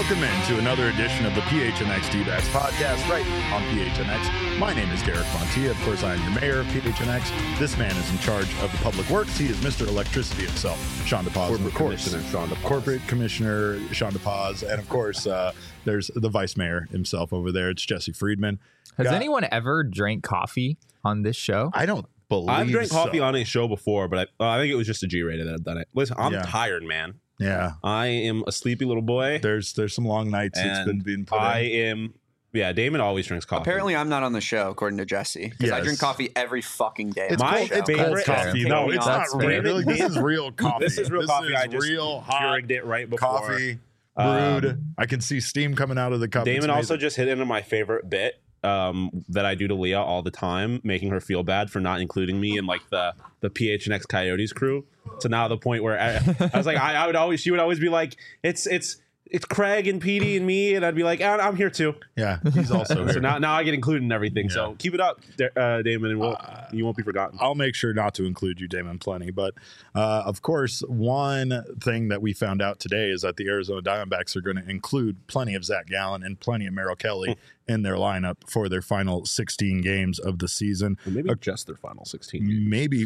Welcome into another edition of the PHNX D-Backs podcast right on PHNX. My name is Garrett Fontia. Of course, I am your mayor of PHNX. This man is in charge of the public works. He is Mr. Electricity himself, Sean DePaz. Corporate Commissioner Sean DePaz. Corporate Commissioner Sean DePaz. And of course, there's the Vice Mayor himself over there. It's Jesse Friedman. Has anyone ever drank coffee on this show? I don't believe I've drank coffee so. on a show before, but I think it was just a G-rated that I've done it. Listen, I'm tired, man. Yeah. I am a sleepy little boy. There's some long nights it's been being put in. Damon always drinks coffee. Apparently, I'm not on the show, according to Jesse, because I drink coffee every fucking day. It's My cold favorite coffee. No, it's not real. This is real coffee. This is real coffee. I just real hot Keurigged it right before. coffee brewed. I can see steam coming out of the cup. Damon also just hit into my favorite bit that I do to Leah all the time, making her feel bad for not including me in like the PHNX Coyotes crew. So now the point where I was like, she would always be like, it's Craig and Petey and me, and I'd be like, I'm here too. Yeah, he's also here. So now I get included in everything. Yeah. So keep it up, Damon, and you won't be forgotten. I'll make sure not to include you, Damon, plenty. But of course, one thing that we found out today is that the Arizona Diamondbacks are going to include plenty of Zach Gallen and plenty of Merrill Kelly in their lineup for their final 16 games of the season. Or maybe just their final 16 games. Maybe,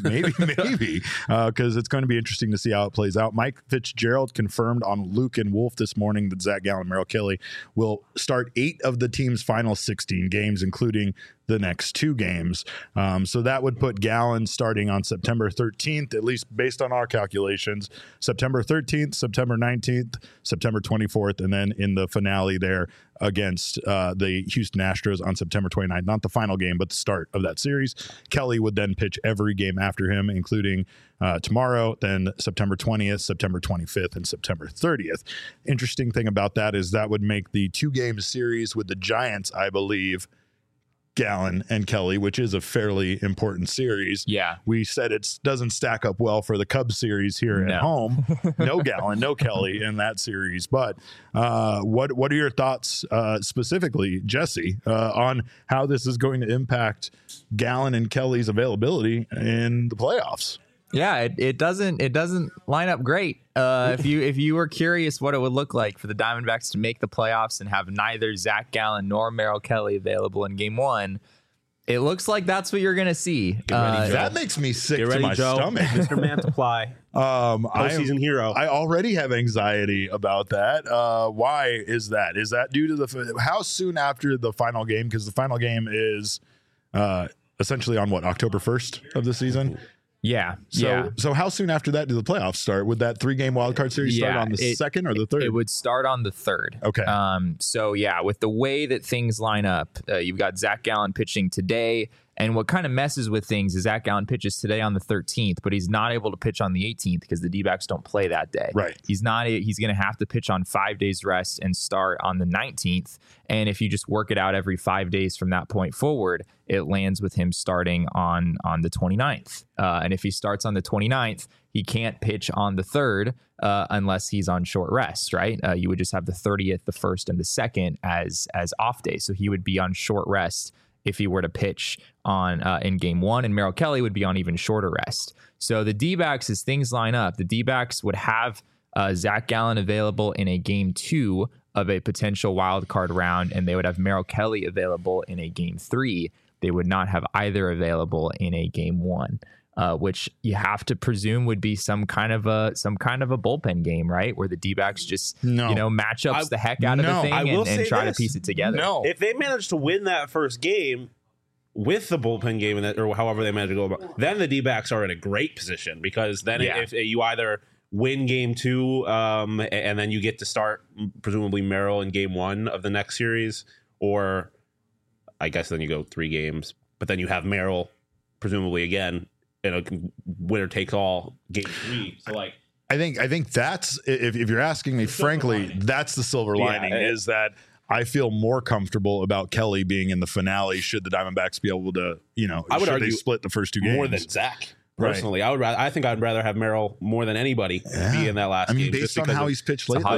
because it's going to be interesting to see how it plays out. Mike Fitzgerald confirmed on Luke and Wolf this morning that Zach Gallen and Merrill Kelly will start 8 of the team's final 16 games, including the next 2 games. So that would put Gallen starting on September 13th, at least based on our calculations, September 13th, September 19th, September 24th, and then in the finale there against the Houston Astros on September 29th. Not the final game, but the start of that series. Kelly would then pitch every game after him, including tomorrow, then September 20th, September 25th, and September 30th. Interesting thing about that is that would make the 2-game series with the Giants, I believe, Gallen and Kelly, which is a fairly important series. Yeah. We said it doesn't stack up well for the Cubs series here at home. No Gallen, no Kelly in that series. But what are your thoughts specifically, Jesse, on how this is going to impact Gallen and Kelly's availability in the playoffs? Yeah, it doesn't line up great. If you were curious what it would look like for the Diamondbacks to make the playoffs and have neither Zach Gallen nor Merrill Kelly available in Game 1, it looks like that's what you're going to see. That makes me sick to my stomach. Mr. Mantiply, postseason hero. I already have anxiety about that. Why is that? Is that due to how soon after the final game? Because the final game is essentially on October 1st of the season. Yeah. So how soon after that do the playoffs start? Would that 3-game wildcard series start on the 2nd or the 3rd? It would start on the 3rd. Okay. So yeah, with the way that things line up, you've got Zach Gallen pitching today. And what kind of messes with things is Zach Gallen pitches today on the 13th, but he's not able to pitch on the 18th because the D-backs don't play that day. Right. He's going to have to pitch on 5 days rest and start on the 19th. And if you just work it out every 5 days from that point forward, it lands with him starting on the 29th. And if he starts on the 29th, he can't pitch on the 3rd unless he's on short rest, right? You would just have the 30th, the 1st, and the 2nd as off days. So he would be on short rest if he were to pitch on in Game 1, and Merrill Kelly would be on even shorter rest. So the D-backs, as things line up, the D-backs would have Zach Gallen available in a Game 2 of a potential wild card round, and they would have Merrill Kelly available in a Game 3. They would not have either available in a Game 1. Which you have to presume would be some kind of a bullpen game, right? Where the D-backs just match ups the heck out of the thing and try to piece it together. No, if they manage to win that first game with the bullpen game or however they manage to go about, then the D-backs are in a great position because then if you either win Game 2 and then you get to start presumably Merrill in Game 1 of the next series, or I guess then you go 3 games, but then you have Merrill presumably again. Winner takes all Game 3. So I think that's, if you're asking me, frankly, that's the silver lining is that I feel more comfortable about Kelly being in the finale should the Diamondbacks be able to, I would argue they split the first 2 games more than Zach. Personally, I think I'd rather have Merrill more than anybody be in that last game. Based on how he's pitched lately,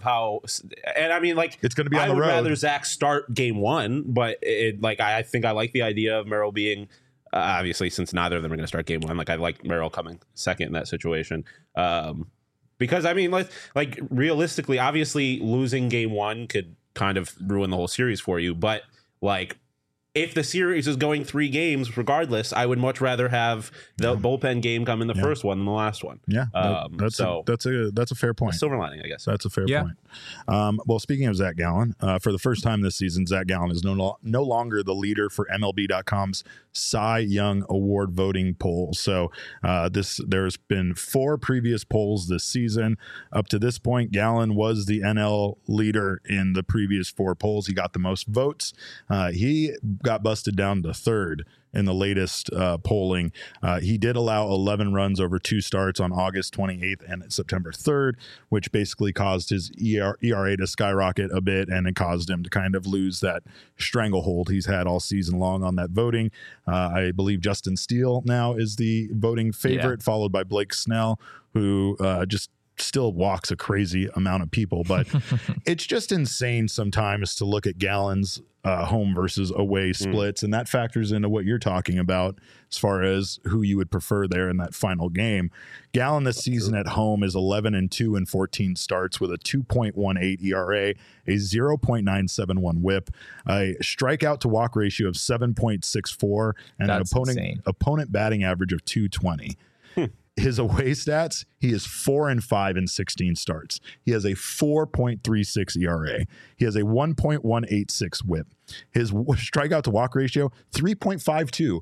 and I mean, it's going to be on the road. I would rather Zach start Game 1, but I think I like the idea of Merrill being. Obviously, since neither of them are going to start Game 1, I like Merrill coming second in that situation. Because I mean, like realistically, obviously losing game 1 could kind of ruin the whole series for you. But like, if the series is going 3 games, regardless, I would much rather have the bullpen game come in the first one than the last one. Yeah, that's a fair point. Silver lining, I guess. That's a fair point. Well, speaking of Zach Gallen, for the first time this season, Zach Gallen is no longer the leader for MLB.com's Cy Young Award voting poll. So there's been 4 previous polls this season. Up to this point, Gallen was the NL leader in the previous 4 polls. He got the most votes. He got busted down to 3rd in the latest polling. He did allow 11 runs over 2 starts on August 28th and September 3rd, which basically caused his ERA to skyrocket a bit, and it caused him to kind of lose that stranglehold he's had all season long on that voting. I believe Justin Steele now is the voting favorite, followed by Blake Snell, who just still walks a crazy amount of people. But it's just insane sometimes to look at Gallen's home versus away splits, and that factors into what you're talking about as far as who you would prefer there in that final game. Gallen this season at home is 11-2 in 14 starts with a 2.18 ERA, a 0.971 WHIP, a strikeout to walk ratio of 7.64, and an opponent batting average of 220. His away stats, he is 4-5 in 16 starts. He has a 4.36 ERA. He has a 1.186 WHIP. His strikeout to walk ratio, 3.52.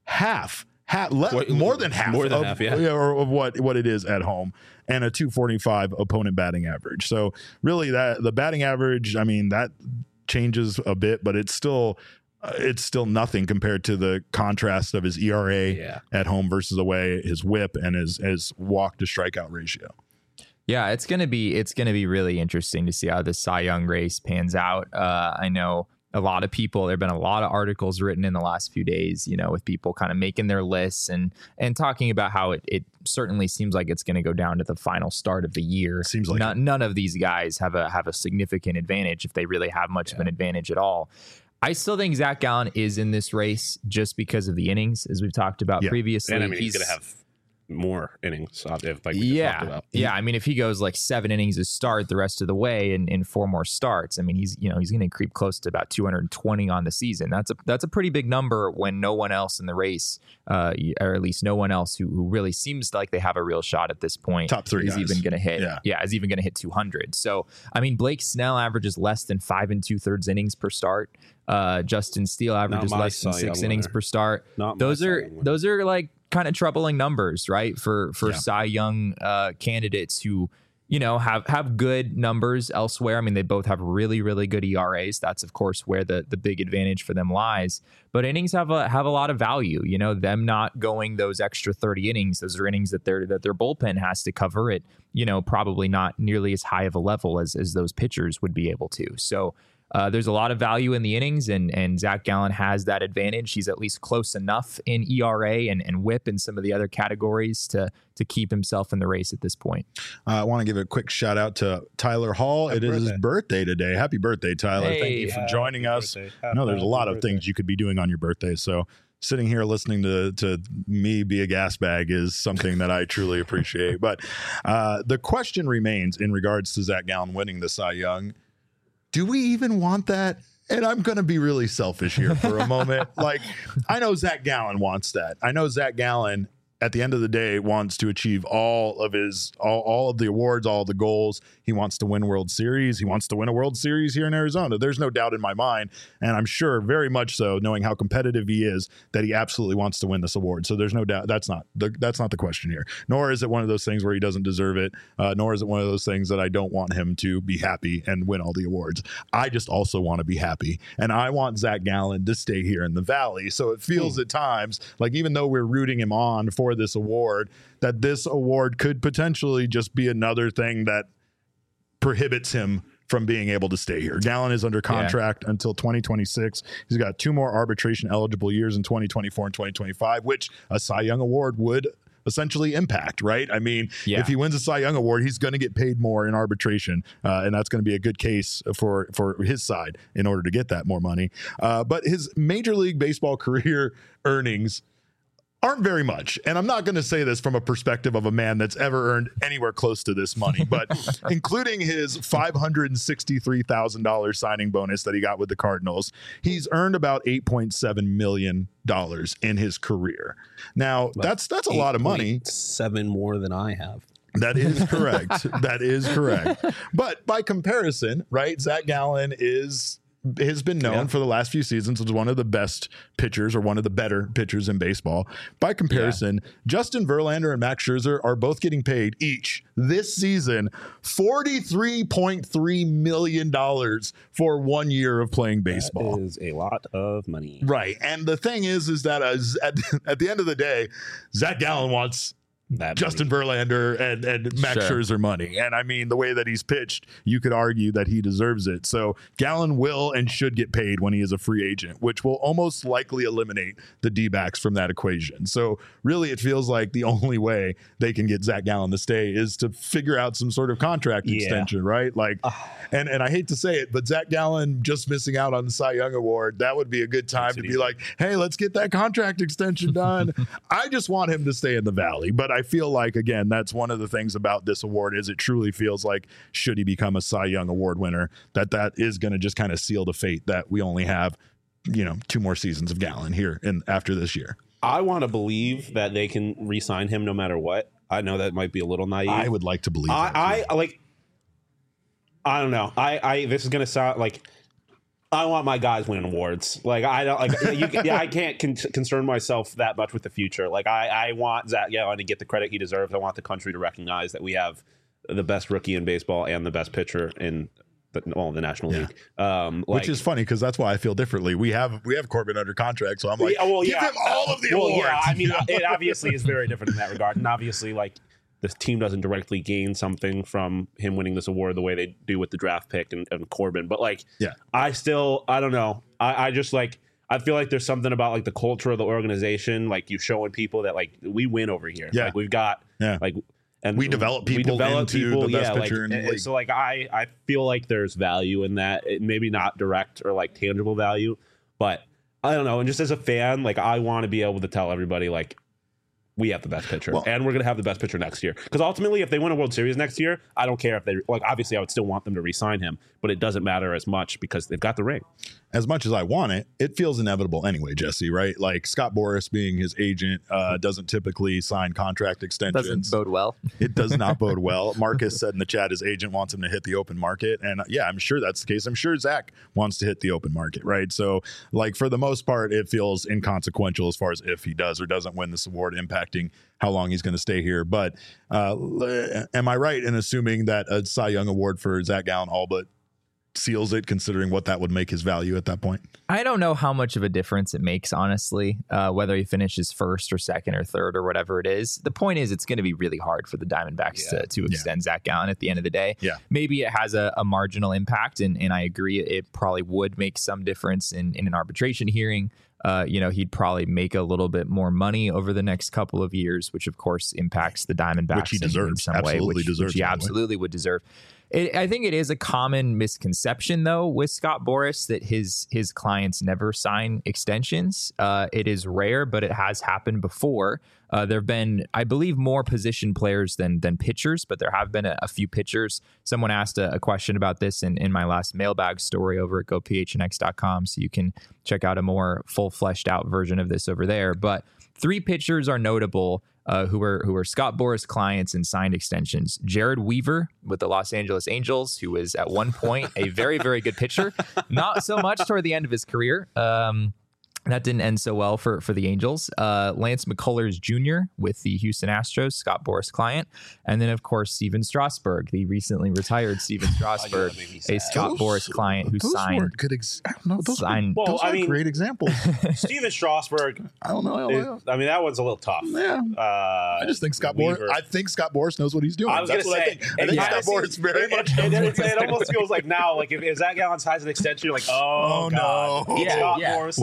More than half of what it is at home, and a 245 opponent batting average. So really, that the batting average, I mean, that changes a bit, but it's still nothing compared to the contrast of his ERA at home versus away, his WHIP, and his walk to strikeout ratio. Yeah, it's gonna be really interesting to see how this Cy Young race pans out. I know a lot of people, there've been a lot of articles written in the last few days, with people kind of making their lists and talking about how it certainly seems like it's going to go down to the final start of the year. Seems like none of these guys have a significant advantage, if they really have much of an advantage at all. I still think Zach Gallen is in this race just because of the innings, as we've talked about previously. And I mean, he's going to have more innings, like we just talked about. Yeah, I mean, if he goes like 7 innings to start the rest of the way and in 4 more starts, I mean, he's going to creep close to about 220 on the season. That's a pretty big number when no one else in the race, or at least no one else who really seems like they have a real shot at this point, top 3 is guys. Even going to hit. Is even going to hit 200. So, I mean, Blake Snell averages less than 5 2/3 innings per start. Justin Steele averages less than 6 innings per start. Those are like kind of troubling numbers, right? For Cy Young candidates who, have good numbers elsewhere. I mean, they both have really, really good ERAs. That's of course where the big advantage for them lies. But innings have a lot of value. Them not going those extra 30 innings, those are innings that their bullpen has to cover it. Probably not nearly as high of a level as those pitchers would be able to. So there's a lot of value in the innings, and Zach Gallen has that advantage. He's at least close enough in ERA and WHIP and some of the other categories to keep himself in the race at this point. I want to give a quick shout out to Tyler Hall. It is his birthday today. Happy birthday, Tyler. Hey, thank you for joining us. I know there's a lot of things you could be doing on your birthday, so sitting here listening to me be a gas bag is something that I truly appreciate. But the question remains in regards to Zach Gallen winning the Cy Young. Do we even want that? And I'm going to be really selfish here for a moment. Like, I know Zach Gallen wants that. I know Zach Gallen, at the end of the day, wants to achieve all of the awards, all of the goals. He wants to win World Series. He wants to win a World Series here in Arizona. There's no doubt in my mind, and I'm sure very much so, knowing how competitive he is, that he absolutely wants to win this award. So there's no doubt that's not the question here. Nor is it one of those things where he doesn't deserve it. Nor is it one of those things that I don't want him to be happy and win all the awards. I just also want to be happy, and I want Zach Gallen to stay here in the Valley. So it feels at times like, even though we're rooting him on for this award, that this award could potentially just be another thing that prohibits him from being able to stay here. Gallen is under contract until 2026. He's got 2 more arbitration eligible years in 2024 and 2025, which a Cy Young award would essentially impact, right? I mean, if he wins a Cy Young award, he's going to get paid more in arbitration, and that's going to be a good case for his side in order to get that more money. But his Major League Baseball career earnings aren't very much. And I'm not going to say this from a perspective of a man that's ever earned anywhere close to this money, but including his $563,000 signing bonus that he got with the Cardinals, he's earned about $8.7 million in his career. Now, that's a lot of money. 7 more than I have. That is correct. That is correct. But by comparison, right, Zach Gallen has been known for the last few seasons as one of the best pitchers or one of the better pitchers in baseball. By comparison, Justin Verlander and Max Scherzer are both getting paid each this season $43.3 million for 1 year of playing baseball. That is a lot of money. Right. And the thing is that at the end of the day, Zach Gallen wants that Justin Verlander and Max Scherzer money. And I mean, the way that he's pitched, you could argue that he deserves it. So Gallen will and should get paid when he is a free agent, which will almost likely eliminate the D-backs from that equation. So really, it feels like the only way they can get Zach Gallen to stay is to figure out some sort of contract extension, right? Like, and I hate to say it, but Zach Gallen just missing out on the Cy Young Award, that would be a good time to be like, hey, let's get that contract extension done. I just want him to stay in the Valley. But I feel like, again, that's one of the things about this award is it truly feels like, should he become a Cy Young Award winner, that is going to just kind of seal the fate that we only have, 2 more seasons of Gallen here and after this year. I want to believe that they can re-sign him no matter what. I know that might be a little naive. I would like to believe that. I don't know. This is going to sound like I want my guys winning awards. Like I don't I can't concern myself that much with the future. Like I want Zach Gallen to get the credit he deserves. I want the country to recognize that we have the best rookie in baseball and the best pitcher in the National League. Which is funny because that's why I feel differently. We have Corbin under contract, so I'm like, give him all of the awards. Yeah, I mean, it obviously is very different in that regard, and obviously, like, this team doesn't directly gain something from him winning this award the way they do with the draft pick and Corbin. But I don't know. I just like, I feel like there's something about like the culture of the organization. Like you showing people that like we win over here. Yeah. Like we've got and we develop people into the best pitcher in the league. So like I feel like there's value in that. Maybe not direct or like tangible value, but I don't know. And just as a fan, like I want to be able to tell everybody like, we have the best pitcher, and we're going to have the best pitcher next year. Because ultimately, if they win a World Series next year, I don't care if they obviously, I would still want them to re-sign him, but it doesn't matter as much because they've got the ring. As much as I want it, it feels inevitable anyway, Jesse. Right? Like Scott Boras being his agent doesn't typically sign contract extensions. Doesn't bode well. It does not bode well. Marcus said in the chat his agent wants him to hit the open market, and I'm sure that's the case. I'm sure Zach wants to hit the open market, right? So, like for the most part, it feels inconsequential as far as if he does or doesn't win this award, impacting how long he's going to stay here. But am I right in assuming that a Cy Young Award for Zach Gallen all but seals it, considering what that would make his value at that point? I don't know how much of a difference it makes, honestly, whether he finishes first or second or third or whatever it is. The point is it's going to be really hard for the Diamondbacks to extend Zach Gallen at the end of the day. Yeah. Maybe it has a marginal impact, and I agree it probably would make some difference in an arbitration hearing. He'd probably make a little bit more money over the next couple of years, which of course impacts the Diamondbacks which he deserves in some absolutely way, deserves, which he absolutely would deserve. I think it is a common misconception, though, with Scott Boras that his clients never sign extensions. It is rare, but it has happened before. There have been, I believe, more position players than pitchers, but there have been a few pitchers. Someone asked a question about this in my last mailbag story over at gophnx.com, so you can check out a more full fleshed out version of this over there. But 3 pitchers are notable who were Scott Boras clients and signed extensions. Jared Weaver with the Los Angeles Angels, who was at one point a very, very good pitcher. Not so much toward the end of his career. That didn't end so well for the Angels. Lance McCullers Jr. with the Houston Astros, Scott Boras client. And then, of course, Steven Strasburg, the recently retired Steven Strasburg, a Scott Boras client who signed. Those are great examples. Steven Strasburg. I don't know. That one's a little tough. Yeah. I just think Scott Boras. I think Scott Boras knows what he's doing. I was going to say. I think Scott Boras very much. It almost feels like now, like if Zach Gallen signs an extension, you're like, oh no. Scott Boras. What is Scott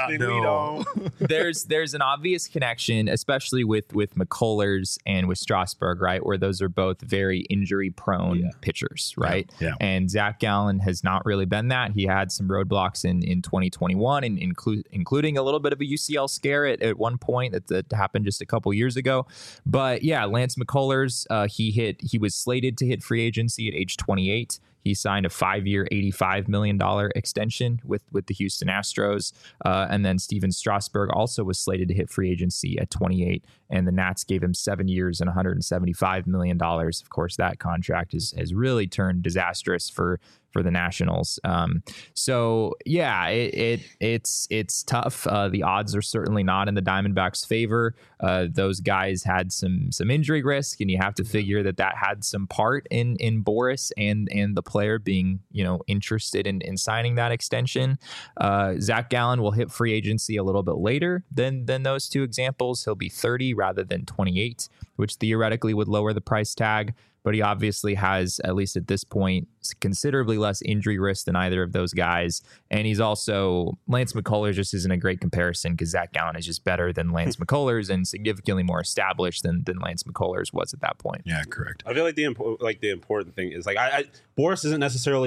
Actually, we don't. There's an obvious connection, especially with McCullers and with Strasburg, right? Where those are both very injury prone pitchers, right? Yeah. And Zach Gallen has not really been that. He had some roadblocks in 2021, and including a little bit of a UCL scare at one point that happened just a couple years ago. But yeah, Lance McCullers, he was slated to hit free agency at age 28. He signed a 5-year, $85 million extension with the Houston Astros. And then Steven Strasburg also was slated to hit free agency at 28. And the Nats gave him 7 years and $175 million. Of course, that contract has really turned disastrous for the Nationals. So yeah, it's tough. The odds are certainly not in the Diamondbacks' favor. Those guys had some injury risk, and you have to figure that had some part in Boras and the player being, interested in signing that extension. Zach Gallen will hit free agency a little bit later than those two examples. He'll be 30 rather than 28, which theoretically would lower the price tag. But he obviously has, at least at this point, considerably less injury risk than either of those guys. And he's also, Lance McCullers just isn't a great comparison because Zach Gallen is just better than Lance McCullers and significantly more established than Lance McCullers was at that point. Yeah, correct. I feel like the important thing is Boras isn't necessarily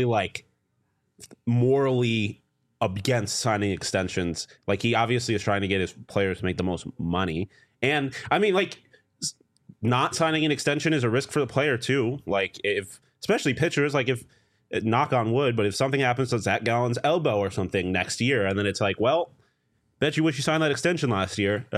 morally against signing extensions. Like, he obviously is trying to get his players to make the most money. And I mean, not signing an extension is a risk for the player too. Especially pitchers, if knock on wood, but if something happens to Zach Gallen's elbow or something next year, and then it's bet you wish you signed that extension last year.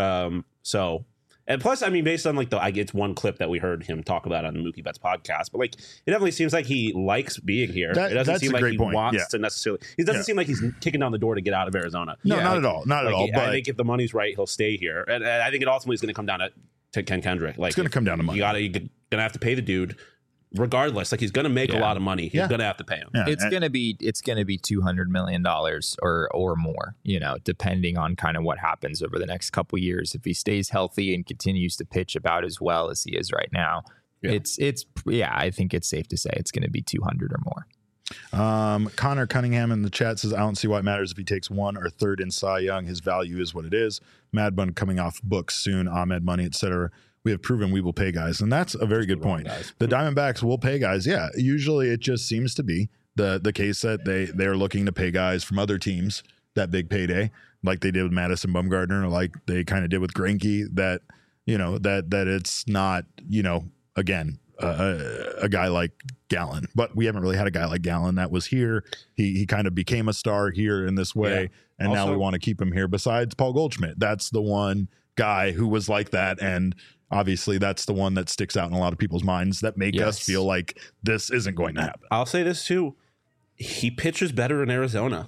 And plus, I mean, based on it's one clip that we heard him talk about on the Mookie Betts podcast, but it definitely seems like he likes being here. It doesn't seem like he wants to necessarily. It doesn't seem like he's kicking down the door to get out of Arizona. No, not at all. Not at all. But I think if the money's right, he'll stay here, and I think it ultimately is going to come down to Ken Kendrick. It's going to come down to money. You're gonna have to pay the dude regardless. He's going to make a lot of money. He's going to have to pay him. Yeah. It's going to be $200 million or more, depending on kind of what happens over the next couple years. If he stays healthy and continues to pitch about as well as he is right now, I think it's safe to say it's going to be 200 or more. Connor Cunningham in the chat says, I don't see why it matters if he takes 1 or 3rd in Cy Young. His value is what it is. Mad Bun coming off books soon, Ahmed Money, etc. We have proven we will pay guys. And that's a very good point. The Diamondbacks will pay guys. Yeah, usually it just seems to be the case that they are looking to pay guys from other teams that big payday, like they did with Madison Bumgarner, or like they kind of did with Greinke, that it's not, again, a guy like Gallen. But we haven't really had a guy like Gallen that was here. He kind of became a star here in this way, and also, now we want to keep him here. Besides Paul Goldschmidt, that's the one guy who was like that, and obviously that's the one that sticks out in a lot of people's minds that make us feel like this isn't going to happen. I'll say this too. He pitches better in Arizona.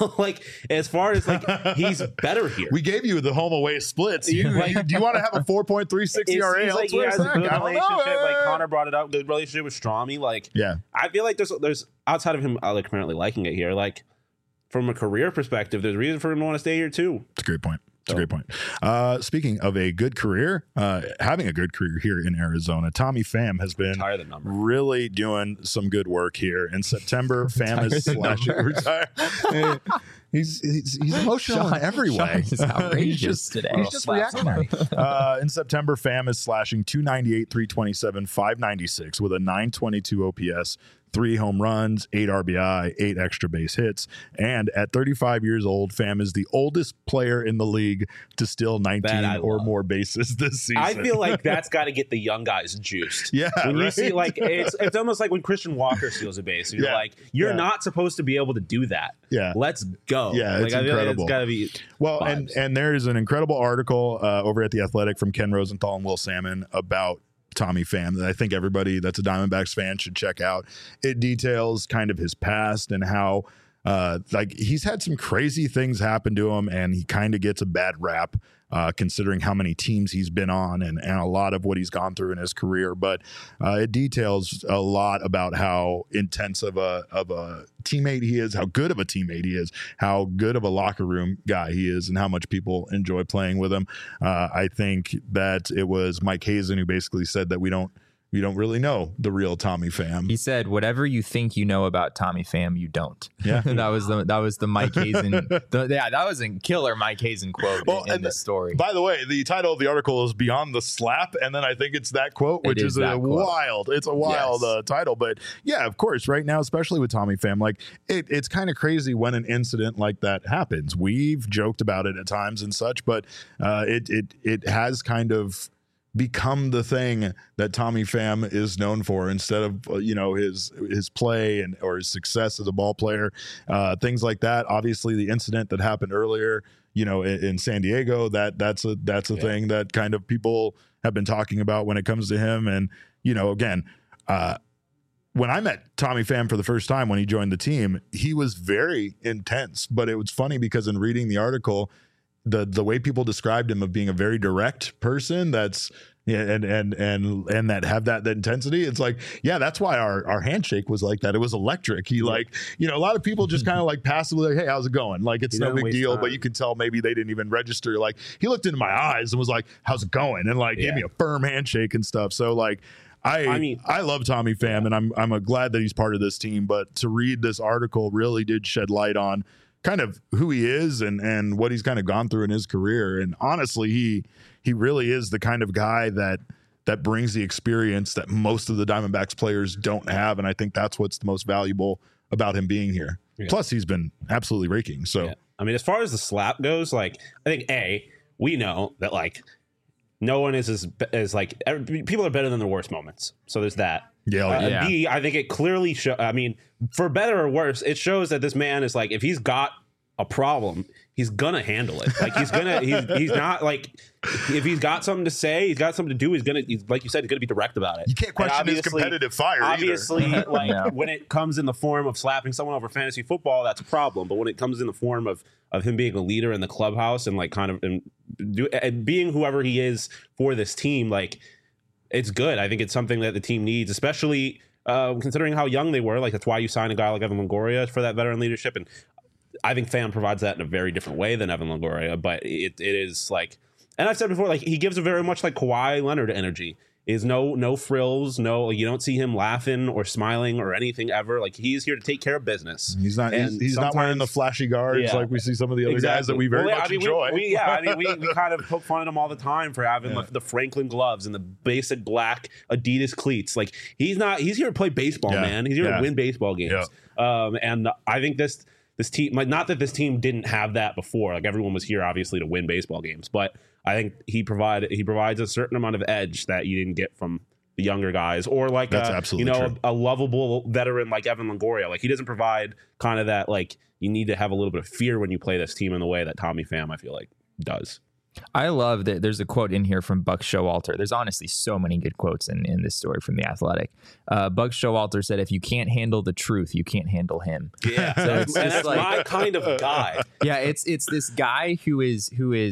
As far as he's better here. We gave you the home away splits. Do you want to have a 4.36 ERA elsewhere? He has a good relationship. Connor brought it up. Good relationship with Strami. I feel like there's outside of him apparently liking it here. From a career perspective, there's a reason for him to want to stay here too. It's a great point. It's a great point. Speaking of a good career, having a good career here in Arizona, Tommy Pham has been really doing some good work here. In September, Pham is slashing. He's emotional in every way. He's outrageous today. He's just reactionary. In September, Pham is slashing 298, 327, 596 with a 922 OPS. 3 home runs, 8 RBI, 8 extra base hits. And at 35 years old, Pham is the oldest player in the league to steal 19 or more bases this season. I feel like that's got to get the young guys juiced. Yeah. When you see, it's almost like when Christian Walker steals a base. And you're you're not supposed to be able to do that. Yeah. Let's go. Yeah, it's incredible. It's got to be and there is an incredible article over at The Athletic from Ken Rosenthal and Will Salmon about Tommy Pham that I think everybody that's a Diamondbacks fan should check out. It details kind of his past and how he's had some crazy things happen to him, and he kind of gets a bad rap considering how many teams he's been on and a lot of what he's gone through in his career. But it details a lot about how intense of a teammate he is, how good of a teammate he is, how good of a locker room guy he is, and how much people enjoy playing with him. I think that it was Mike Hazen who basically said that we don't we don't really know the real Tommy Pham. He said, "Whatever you think you know about Tommy Pham, you don't." Yeah, that was the Mike Hazen. That was a killer Mike Hazen quote in this story. By the way, the title of the article is "Beyond the Slap," and then I think it's that quote, which is a wild. It's a wild title, but yeah, of course, right now, especially with Tommy Pham, like it's kind of crazy when an incident like that happens. We've joked about it at times and such, but it has kind of become the thing that Tommy Pham is known for, instead of his play or his success as a ball player, things like that. Obviously, the incident that happened earlier, in San Diego, that's a thing that kind of people have been talking about when it comes to him. And again, when I met Tommy Pham for the first time when he joined the team, he was very intense. But it was funny because in reading the article, the way people described him of being a very direct person, that's and that have that intensity. It's like, yeah, that's why our handshake was like that. It was electric. He a lot of people just kind of like passively like, hey, how's it going? Like, it's no big deal, but you can tell maybe they didn't even register. Like, he looked into my eyes and was like, how's it going? And like gave me a firm handshake and stuff. So like, I love Tommy Pham, and I'm glad that he's part of this team. But to read this article really did shed light on kind of who he is and what he's kind of gone through in his career. And honestly, he really is the kind of guy that brings the experience that most of the Diamondbacks players don't have. And I think that's what's the most valuable about him being here. Yeah. Plus, he's been absolutely raking. So, I mean, as far as the slap goes, like, I think we know that like no one is as like people are better than their worst moments. So there's that. Yeah. B, I think it clearly I mean, for better or worse, it shows that this man is like, if he's got a problem, he's gonna handle it. Like, he's not like, if he's got something to say, he's got something to do, he's like you said, he's gonna be direct about it. You can't question his competitive fire obviously either. When it comes in the form of slapping someone over fantasy football, that's a problem. But when it comes in the form of him being a leader in the clubhouse and like kind of and being whoever he is for this team, like, it's good. I think it's something that the team needs, especially considering how young they were. Like, that's why you sign a guy like Evan Longoria for that veteran leadership. And I think Pham provides that in a very different way than Evan Longoria. But it is like, and I've said before, like, he gives a very much like Kawhi Leonard energy. Is no frills, you don't see him laughing or smiling or anything ever. Like, he's here to take care of business. He's not wearing the flashy guards like we see some of the other guys that we very much enjoy. We kind of poke fun at him all the time for having the Franklin gloves and the basic black Adidas cleats. Like, he's here to play baseball, man. He's here to win baseball games. And I think this team, not that this team didn't have that before. Like, everyone was here obviously to win baseball games, but I think he provides a certain amount of edge that you didn't get from the younger guys, or like true. A lovable veteran like Evan Longoria. Like, he doesn't provide kind of that, like, you need to have a little bit of fear when you play this team in the way that Tommy Pham, I feel like, does. I love that there's a quote in here from Buck Showalter. There's honestly so many good quotes in this story from The Athletic. Buck Showalter said, if you can't handle the truth, you can't handle him. Yeah, so that's like, my kind of guy. Yeah, it's this guy who is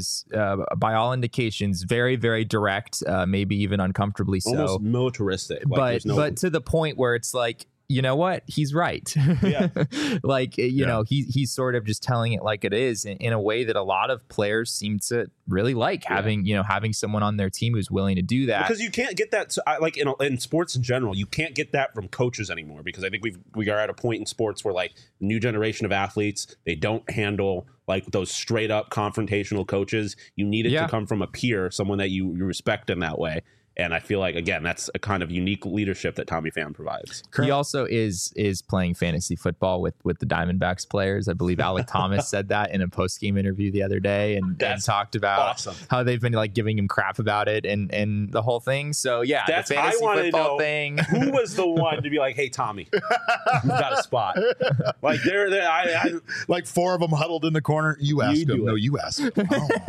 by all indications very, very direct, maybe even uncomfortably so. Almost militaristic. Like, but to the point where it's like, you know what? He's right. Yeah. Like, you know, he's sort of just telling it like it is in a way that a lot of players seem to really like having someone on their team who's willing to do that. Because you can't get that, like, in sports in general, you can't get that from coaches anymore, because I think we are at a point in sports where, like, the new generation of athletes, they don't handle like those straight up confrontational coaches. You need it to come from a peer, someone that you respect in that way. And I feel like, again, that's a kind of unique leadership that Tommy Pham provides. He also is playing fantasy football with the Diamondbacks players. I believe Alec Thomas said that in a post-game interview the other day, and talked about how they've been like giving him crap about it and the whole thing. So yeah, that's the fantasy football thing. Who was the one to be like, "Hey, Tommy, you've got a spot"? Like I like four of them huddled in the corner. You asked him. No, you asked him.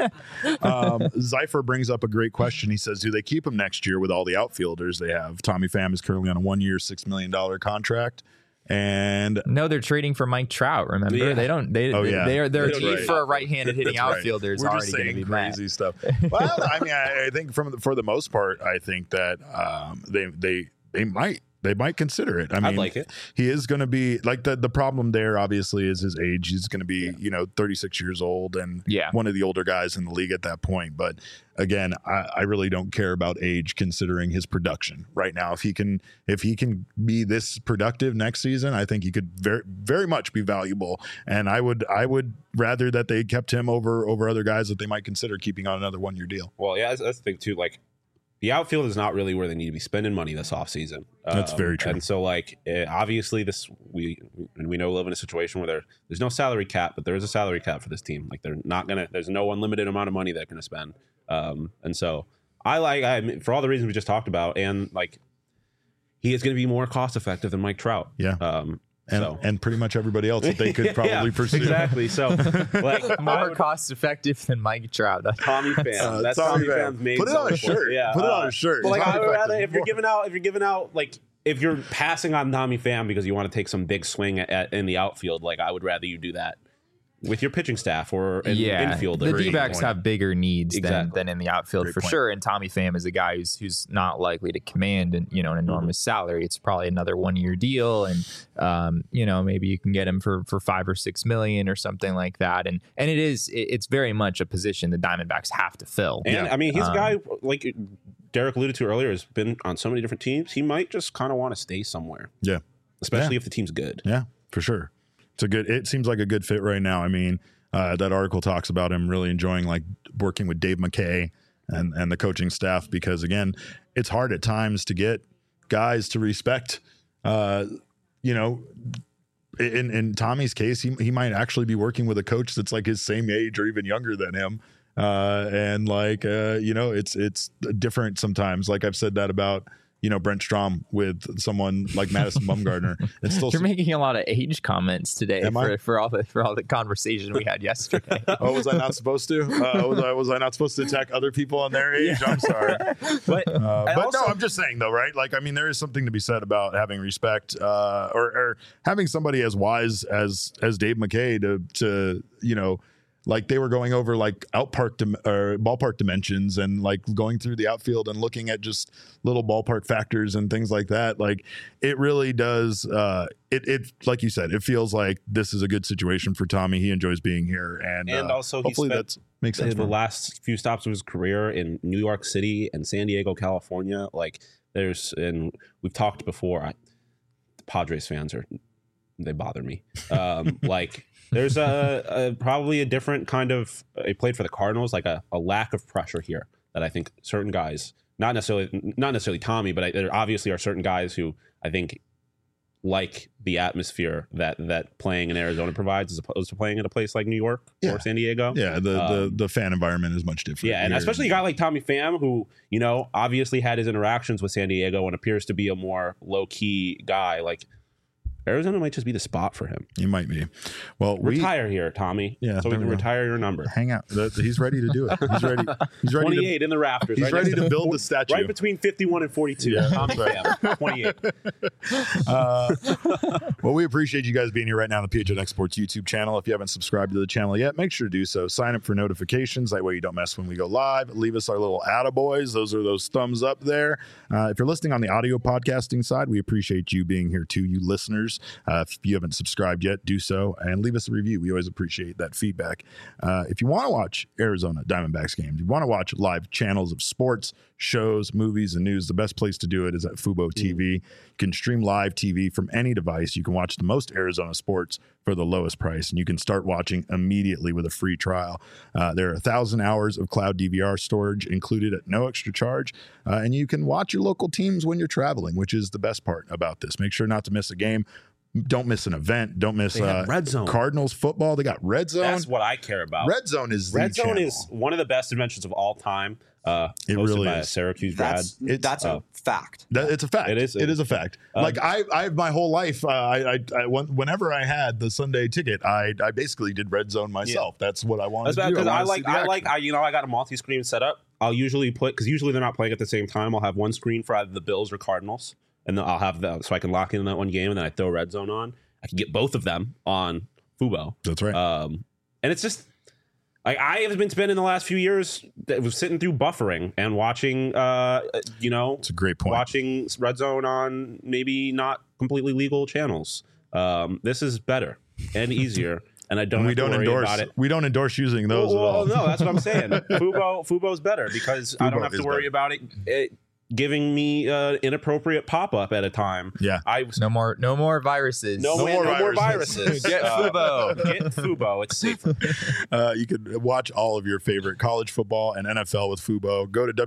Oh. Zypher brings up a great question. He says, "Do they keep him next year with all the outfielders they have?" Tommy Pham is currently on a 1-year, $6 million contract, and no, they're trading for Mike Trout. Remember, they're cheap for a right-handed hitting outfielder. Is already going to be crazy stuff. Well, I mean, I think for the most part, I think that they might they might consider it. I mean, I'd like it. He is going to be like the problem there obviously is his age. He's going to be, 36 years old and one of the older guys in the league at that point. But again, I really don't care about age considering his production right now. If he can be this productive next season, I think he could very, very much be valuable. And I would rather that they kept him over other guys that they might consider keeping on another 1-year deal. Well, yeah, that's the thing too. Like, the outfield is not really where they need to be spending money this offseason. That's very true. And so, obviously, we know we live in a situation where there's no salary cap, but there is a salary cap for this team. Like, there's no unlimited amount of money they're going to spend. And so, for all the reasons we just talked about, and he is going to be more cost effective than Mike Trout. Yeah. And pretty much everybody else that they could probably pursue. Exactly. So, more cost effective than Mike Trout. That's Tommy Pham. That's Tommy Pham's main. Put it on a shirt. Yeah. Put it on a shirt. Well, I would rather if you're giving out if you're passing on Tommy Pham because you want to take some big swing in the outfield, I would rather you do that with your pitching staff or infield. The D-backs have bigger needs than in the outfield Great for point. sure. And Tommy Pham is a guy who's not likely to command an enormous salary. It's probably another 1-year deal, and maybe you can get him for $5 or $6 million or something like that. And it's very much a position the Diamondbacks have to fill. And I mean, he's a guy like Derek alluded to earlier has been on so many different teams. He might just kind of want to stay somewhere. Yeah, especially if the team's good. Yeah, for sure. It seems like a good fit right now. I mean, that article talks about him really enjoying working with Dave McKay and the coaching staff, because again, it's hard at times to get guys to respect, in Tommy's case, he might actually be working with a coach that's like his same age or even younger than him. It's different sometimes. Like I've said that about, Brent Strom with someone like Madison Bumgarner. It's still You're making a lot of age comments today for all the conversation we had yesterday. Oh, was I not supposed to? Was I not supposed to attack other people on their age? Yeah. I'm sorry. But no, I'm just saying though, right? There is something to be said about having respect, or having somebody as wise as Dave McKay to they were going over ballpark dimensions and going through the outfield and looking at just little ballpark factors and things like that. It really does. It like you said, it feels like this is a good situation for Tommy. He enjoys being here, and also hopefully that makes sense. The last few stops of his career in New York City and San Diego, California. And we've talked before. The Padres fans they bother me. There's probably a different kind of. He played for the Cardinals, a lack of pressure here that I think certain guys, not necessarily Tommy, but there obviously are certain guys who I think like the atmosphere that playing in Arizona provides as opposed to playing at a place like New York or San Diego. Yeah, the fan environment is much different. Yeah, and especially a guy like Tommy Pham, who obviously had his interactions with San Diego and appears to be a more low key guy. Arizona might just be the spot for him. He might be. Well, retire here, Tommy. Yeah, so we can retire your number. Hang out. He's ready to do it. He's ready. He's ready. 28 in the rafters. He's ready to build the statue. Right between 51 and 42. Yeah, Tommy Pham, 28. Well, we appreciate you guys being here right now on the PHNX Sports YouTube channel. If you haven't subscribed to the channel yet, make sure to do so. Sign up for notifications. That way you don't miss when we go live. Leave us our little attaboys. Those are those thumbs up there. If you're listening on the audio podcasting side, we appreciate you being here too, you listeners. If you haven't subscribed yet, do so and leave us a review. We always appreciate that feedback. If you want to watch Arizona Diamondbacks games, you want to watch live channels of sports, shows, movies, and news, the best place to do it is at Fubo TV. You can stream live TV from any device. You can watch the most Arizona sports for the lowest price, and you can start watching immediately with a free trial. There are 1,000 hours of cloud DVR storage included at no extra charge, and you can watch your local teams when you're traveling, which is the best part about this. Make sure not to miss a game. Don't miss an event. Don't miss Red Zone. Cardinals football. They got Red Zone. That's what I care about. Red Zone is one of the best inventions of all time. It really by is. A Syracuse grad. That's a fact. It's a fact. It is. It is a fact. I my whole life, whenever I had the Sunday ticket, I basically did Red Zone myself. Yeah. That's what I wanted to do. Because I got a multi-screen setup. I'll usually because usually they're not playing at the same time. I'll have one screen for either the Bills or Cardinals. And then I'll have that so I can lock in that one game, and then I throw Red Zone on. I can get both of them on Fubo. That's right. And it's just Like I have been spending the last few years sitting through buffering and watching, it's a great point. Watching Red Zone on maybe not completely legal channels. This is better and easier, and I don't. We don't endorse about it. We don't endorse using those. Well, no, that's what I'm saying. Fubo's better because I don't have to worry about it giving me inappropriate pop-up at a time. Yeah. No more viruses. No more viruses. Get Fubo. Get Fubo. It's safer. You could watch all of your favorite college football and NFL with Fubo. Go to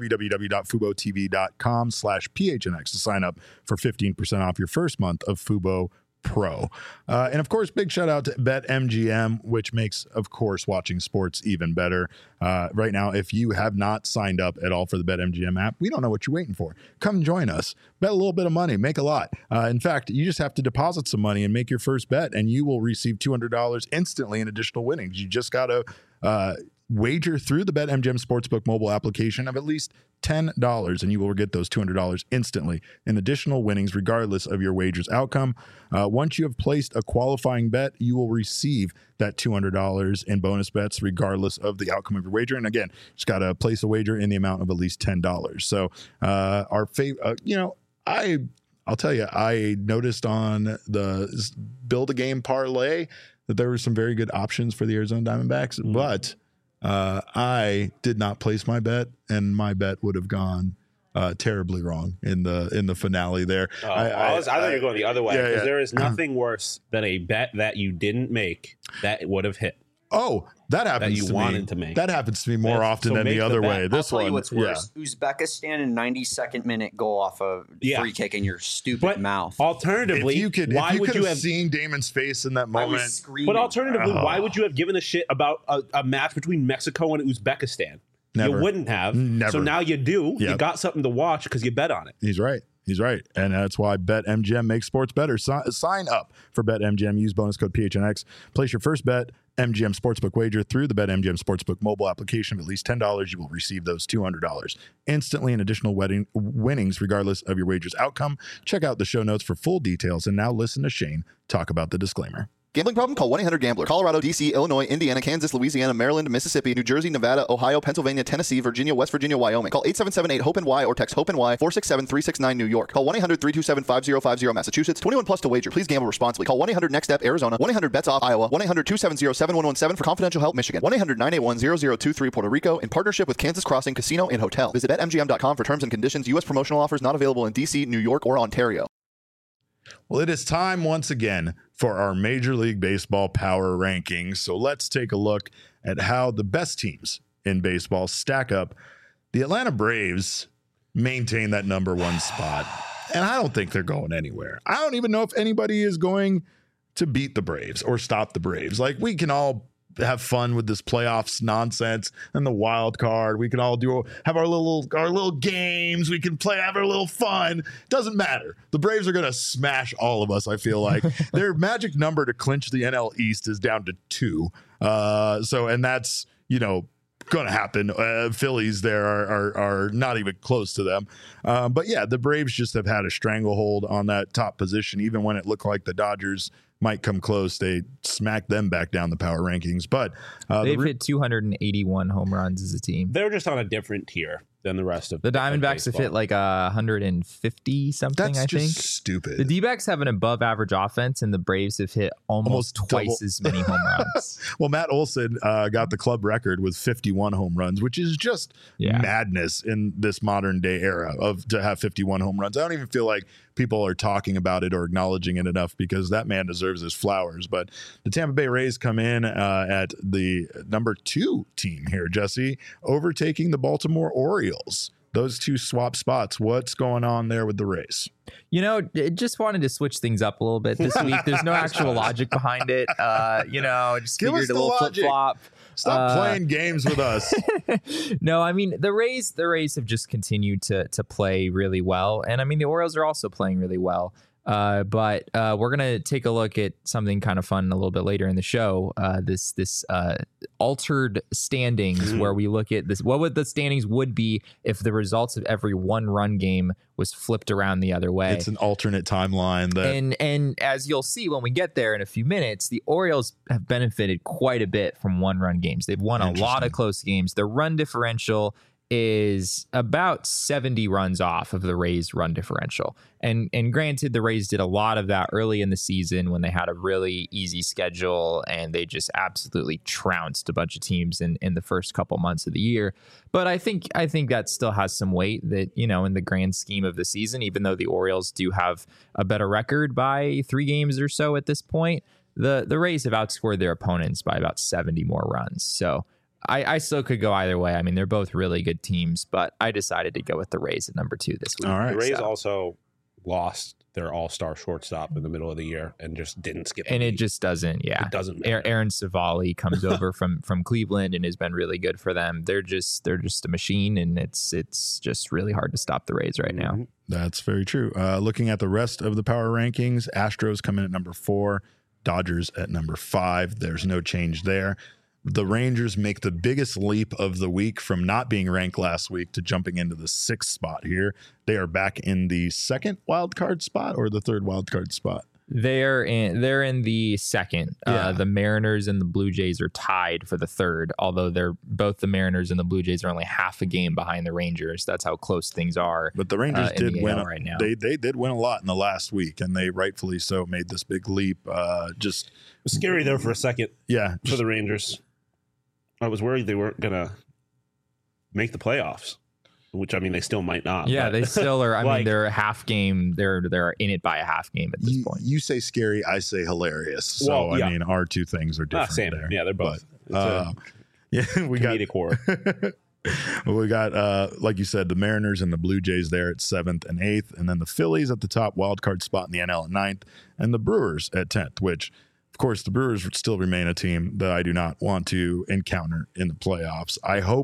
www.FuboTV.com/PHNX to sign up for 15% off your first month of Fubo Pro. And of course, big shout out to BetMGM, which makes, of course, watching sports even better. Right now, if you have not signed up at all for the BetMGM app, we don't know what you're waiting for. Come join us. Bet a little bit of money, make a lot. In fact, you just have to deposit some money and make your first bet, and you will receive $200 instantly in additional winnings. You just got to wager through the BetMGM Sportsbook mobile application of at least $10, and you will get those $200 instantly in additional winnings, regardless of your wager's outcome. Once you have placed a qualifying bet, you will receive that $200 in bonus bets, regardless of the outcome of your wager. And again, just got to place a wager in the amount of at least $10. So our favorite, I'll tell you, I noticed on the Build a Game parlay that there were some very good options for the Arizona Diamondbacks, but I did not place my bet, and my bet would have gone terribly wrong in the finale there. I thought you were going the other way, because there is nothing worse than a bet that you didn't make that would have hit. Oh, that happens that you wanted to make. That happens to me more often than the other way. This I'll tell one, you what's worse. Uzbekistan in 92nd minute goal off a free kick in your stupid mouth. Alternatively, why would you have seen Damon's face in that moment? But alternatively, why would you have given a shit about a match between Mexico and Uzbekistan? Never. You wouldn't have. Never. So now you do. Yep. You got something to watch because you bet on it. He's right. And that's why BetMGM makes sports better. Sign up for BetMGM. Use bonus code PHNX. Place your first bet MGM Sportsbook wager through the BetMGM Sportsbook mobile application of at least $10. You will receive those $200 instantly in additional winnings, regardless of your wager's outcome. Check out the show notes for full details. And now listen to Shane talk about the disclaimer. Gambling problem? Call 1-800-GAMBLER. Colorado, D.C., Illinois, Indiana, Kansas, Louisiana, Maryland, Mississippi, New Jersey, Nevada, Ohio, Pennsylvania, Tennessee, Virginia, West Virginia, Wyoming. Call 877-8-HOPE-NY or text HOPE-NY 467-369 New York. Call 1-800-327-5050 Massachusetts. 21 plus to wager. Please gamble responsibly. Call 1-800-NEXT-STEP Arizona. 1-800-BETS-OFF Iowa. 1-800-270-7117 for confidential help Michigan. 1-800-981-0023 Puerto Rico in partnership with Kansas Crossing Casino and Hotel. Visit BetMGM.com for terms and conditions. U.S. promotional offers not available in D.C., New York, or Ontario. Well, it is time once again for our Major League Baseball power rankings. So let's take a look at how the best teams in baseball stack up. The Atlanta Braves maintain that number one spot, and I don't think they're going anywhere. I don't even know if anybody is going to beat the Braves or stop the Braves. Like, we can all have fun with this playoffs nonsense and the wild card. We can all have our little games. We can have our little fun. Doesn't matter. The Braves are going to smash all of us. I feel like their magic number to clinch the NL East is down to 2. And that's, going to happen. Phillies there are not even close to them. But yeah, the Braves just have had a stranglehold on that top position. Even when it looked like the Dodgers might come close, they smacked them back down the power rankings. But they've hit 281 home runs as a team. They're just on a different tier than the rest of the Diamondbacks. Have hit like 150 something. That's I think just stupid. The D-backs have an above average offense, and the Braves have hit almost twice as many home runs. Well, Matt Olson got the club record with 51 home runs, which is just madness in this modern day era to have 51 home runs. I don't even feel like people are talking about it or acknowledging it enough, because that man deserves his flowers. But the Tampa Bay Rays come in at the number 2 team here, Jesse, overtaking the Baltimore Orioles. Those two swap spots. What's going on there with the Rays? Just wanted to switch things up a little bit this week. There's no actual logic behind it. Just figured a little flip-flop. Stop playing games with us. No, I mean, the Rays have just continued to play really well. And I mean, the Orioles are also playing really well. But we're going to take a look at something kind of fun a little bit later in the show. This altered standings where we look at this. What would the standings would be if the results of every 1-run game was flipped around the other way? It's an alternate timeline. And as you'll see when we get there in a few minutes, the Orioles have benefited quite a bit from 1-run games. They've won a lot of close games. Their run differential is about 70 runs off of the Rays' run differential. And granted, the Rays did a lot of that early in the season when they had a really easy schedule and they just absolutely trounced a bunch of teams in the first couple months of the year. But I think that still has some weight that, in the grand scheme of the season, even though the Orioles do have a better record by 3 games or so at this point, the Rays have outscored their opponents by about 70 more runs. So I still could go either way. I mean, they're both really good teams, but I decided to go with the Rays at number 2 this week. All right. The Rays also lost their all-star shortstop in the middle of the year and just didn't skip. And it just doesn't. Yeah, it doesn't matter. Aaron Savali comes over from Cleveland and has been really good for them. They're just a machine, and it's just really hard to stop the Rays right now. That's very true. Looking at the rest of the power rankings, Astros come in at number 4, Dodgers at number 5. There's no change there. The Rangers make the biggest leap of the week from not being ranked last week to jumping into the 6th spot here. They are back in the 2nd wild card spot or the 3rd wild card spot. They're in the 2nd. Yeah. The Mariners and the Blue Jays are tied for the 3rd, although both the Mariners and the Blue Jays are only half a game behind the Rangers. That's how close things are. But the Rangers did win right now. They did win a lot in the last week, and they rightfully so made this big leap. Just it was scary there for a second. Yeah, for the Rangers. I was worried they weren't gonna make the playoffs, which I mean they still might not. Yeah, but they still are. I mean, they're a half game. They're in it by a half game at this point. You say scary, I say hilarious. So well, yeah. I mean, our two things are different. Same. There. Yeah, they're both. Yeah, we got horror. We got, like you said, the Mariners and the Blue Jays there at 7th and 8th, and then the Phillies at the top wild card spot in the NL at 9th, and the Brewers at 10th, which, of course, the Brewers still remain a team that I do not want to encounter in the playoffs.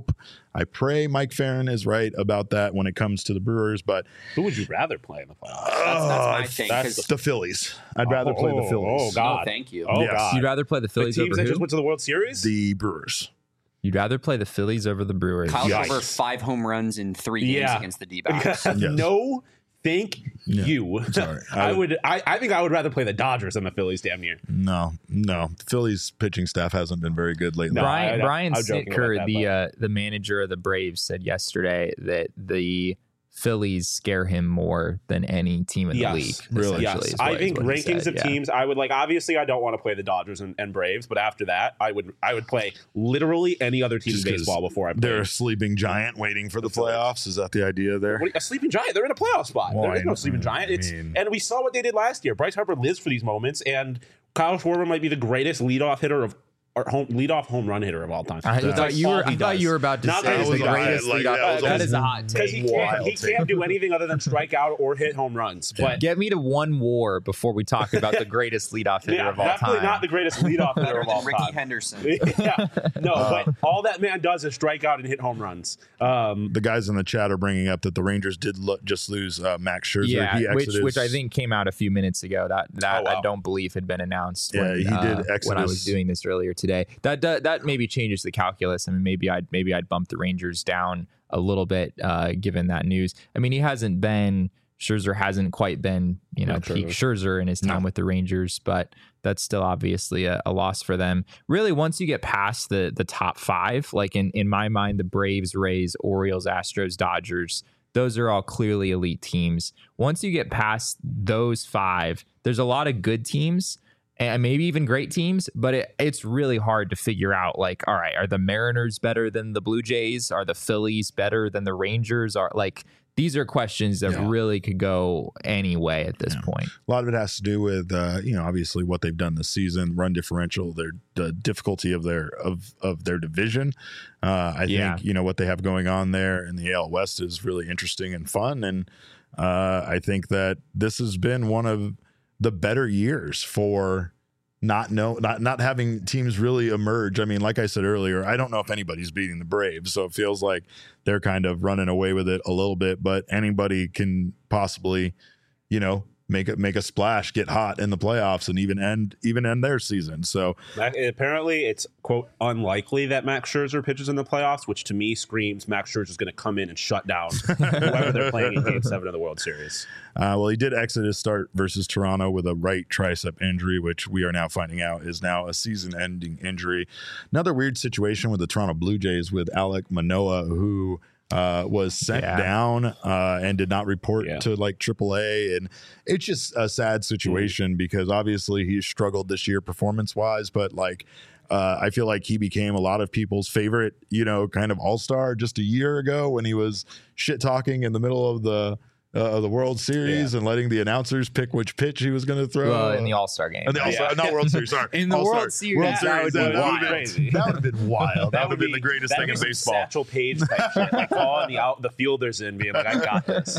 I pray Mike Farron is right about that when it comes to the Brewers, but who would you rather play in the playoffs? That's my thing. That's the Phillies. I'd rather play the Phillies. Oh, God. No, thank you. Oh, Yes. God. You'd rather play the Phillies the teams over that who? just went to the World Series? The Brewers. You'd rather play the Phillies over the Brewers. Kyle's Yikes. over 5 home runs in 3 games against the D-backs. Yes. No, thank you. Sorry. I think I would rather play the Dodgers than the Phillies. Damn near. No. The Phillies pitching staff hasn't been very good lately. No. Brian I'm joking Snitker, about that, the manager of the Braves, said yesterday that the Phillies scare him more than any team in the league. Really? Yes. I think rankings of teams, I would like. Obviously, I don't want to play the Dodgers and Braves, but after that, I would play literally any other team in baseball before I play. They're a sleeping giant waiting for the playoffs. Is that the idea there? A sleeping giant. They're in a playoff spot. Well, there is no sleeping giant. And we saw what they did last year. Bryce Harper lives for these moments, and Kyle Schwarber might be the greatest leadoff hitter leadoff home run hitter of all time. I thought you were about to Not say that the was greatest like, leadoff. That is a hot because take. he can't do anything other than strike out or hit home runs. But Get me to one WAR before we talk about the greatest leadoff hitter of all time. definitely not the greatest leadoff hitter Better of all than Ricky time. Henderson. But all that man does is strike out and hit home runs. The guys in the chat are bringing up that the Rangers did just lose Max Scherzer. Yeah, He exited which I think came out a few minutes ago. That Oh, wow. I don't believe had been announced. Yeah, he did exit when I was his- doing this earlier today. That maybe changes the calculus. I mean, maybe I'd bump the Rangers down a little bit given that news. I mean, Scherzer hasn't quite been peak Scherzer in his time with the Rangers, but that's still obviously a loss for them. Really, once you get past the top 5, like in my mind, the Braves, Rays, Orioles, Astros, Dodgers, those are all clearly elite teams. Once you get past those 5, there's a lot of good teams and maybe even great teams, but it's really hard to figure out, like, all right, are the Mariners better than the Blue Jays? Are the Phillies better than the Rangers? These are questions that really could go any way at this point. A lot of it has to do with, obviously what they've done this season, run differential, the difficulty of their division. I think, what they have going on there in the AL West is really interesting and fun. And I think that this has been one of the better years for not having teams really emerge. I mean, like I said earlier, I don't know if anybody's beating the Braves, so it feels like they're kind of running away with it a little bit, but anybody can possibly, make a splash, get hot in the playoffs, and even end their season. So apparently, it's quote unlikely that Max Scherzer pitches in the playoffs, which to me screams Max Scherzer is going to come in and shut down whoever they're playing in Game 7 of the World Series. Well, he did exit his start versus Toronto with a right tricep injury, which we are now finding out is now a season-ending injury. Another weird situation with the Toronto Blue Jays with Alek Manoah, who was sent down and did not report to like AAA, and it's just a sad situation because obviously he struggled this year performance-wise, but like I feel like he became a lot of people's favorite, kind of all-star just a year ago when he was shit-talking in the middle of the World Series and letting the announcers pick which pitch he was going to throw. Well, in the All-Star game. In the All-Star, not World Series, sorry. In the World Series. That would be wild. That would have been wild. That would have been the greatest thing in baseball. Satchel Paige type shit, like calling the fielders in, being like, I got this.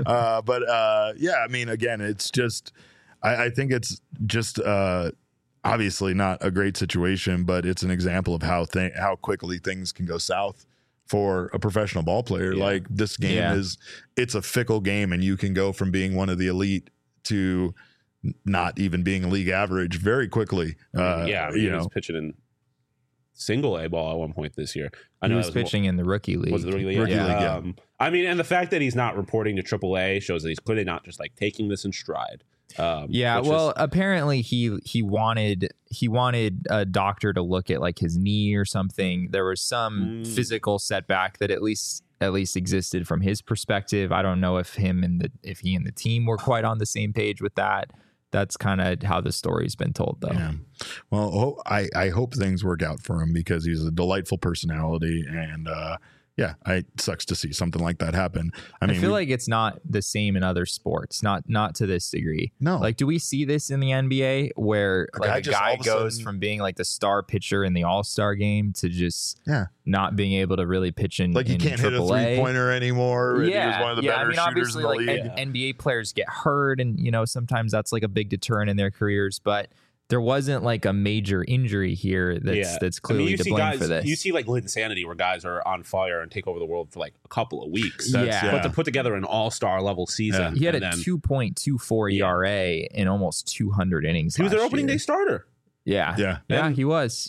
I mean, again, it's just, I think it's just obviously not a great situation, but it's an example of how quickly things can go south for a professional ball player. Like this game it's a fickle game, and you can go from being one of the elite to not even being league average very quickly. He was pitching in single A ball at one point this year. I know he was pitching in the rookie league. Was it the rookie league? Rookie league, I mean, and the fact that he's not reporting to AAA shows that he's clearly not just like taking this in stride. Apparently he wanted a doctor to look at like his knee or something. There was some physical setback that at least existed from his perspective. I don't know if he and the team were quite on the same page with that. That's kind of how the story's been told, though. Yeah. Well, I hope things work out for him because he's a delightful personality, and it sucks to see something like that happen. I mean, I feel like it's not the same in other sports, not to this degree. No. Like, do we see this in the NBA where like a guy goes from being like the star pitcher in the All-Star game to just not being able to really pitch in like he can't hit a 3-pointer anymore? Yeah, and he was one of the better shooters in the league. NBA players get hurt, and sometimes that's like a big deterrent in their careers, but there wasn't like a major injury here that's clearly to blame for this. You see like Linsanity where guys are on fire and take over the world for like a couple of weeks. But to put together an all-star level season. He had a 2.24 ERA in almost 200 innings. He was their opening day starter. Yeah, he was.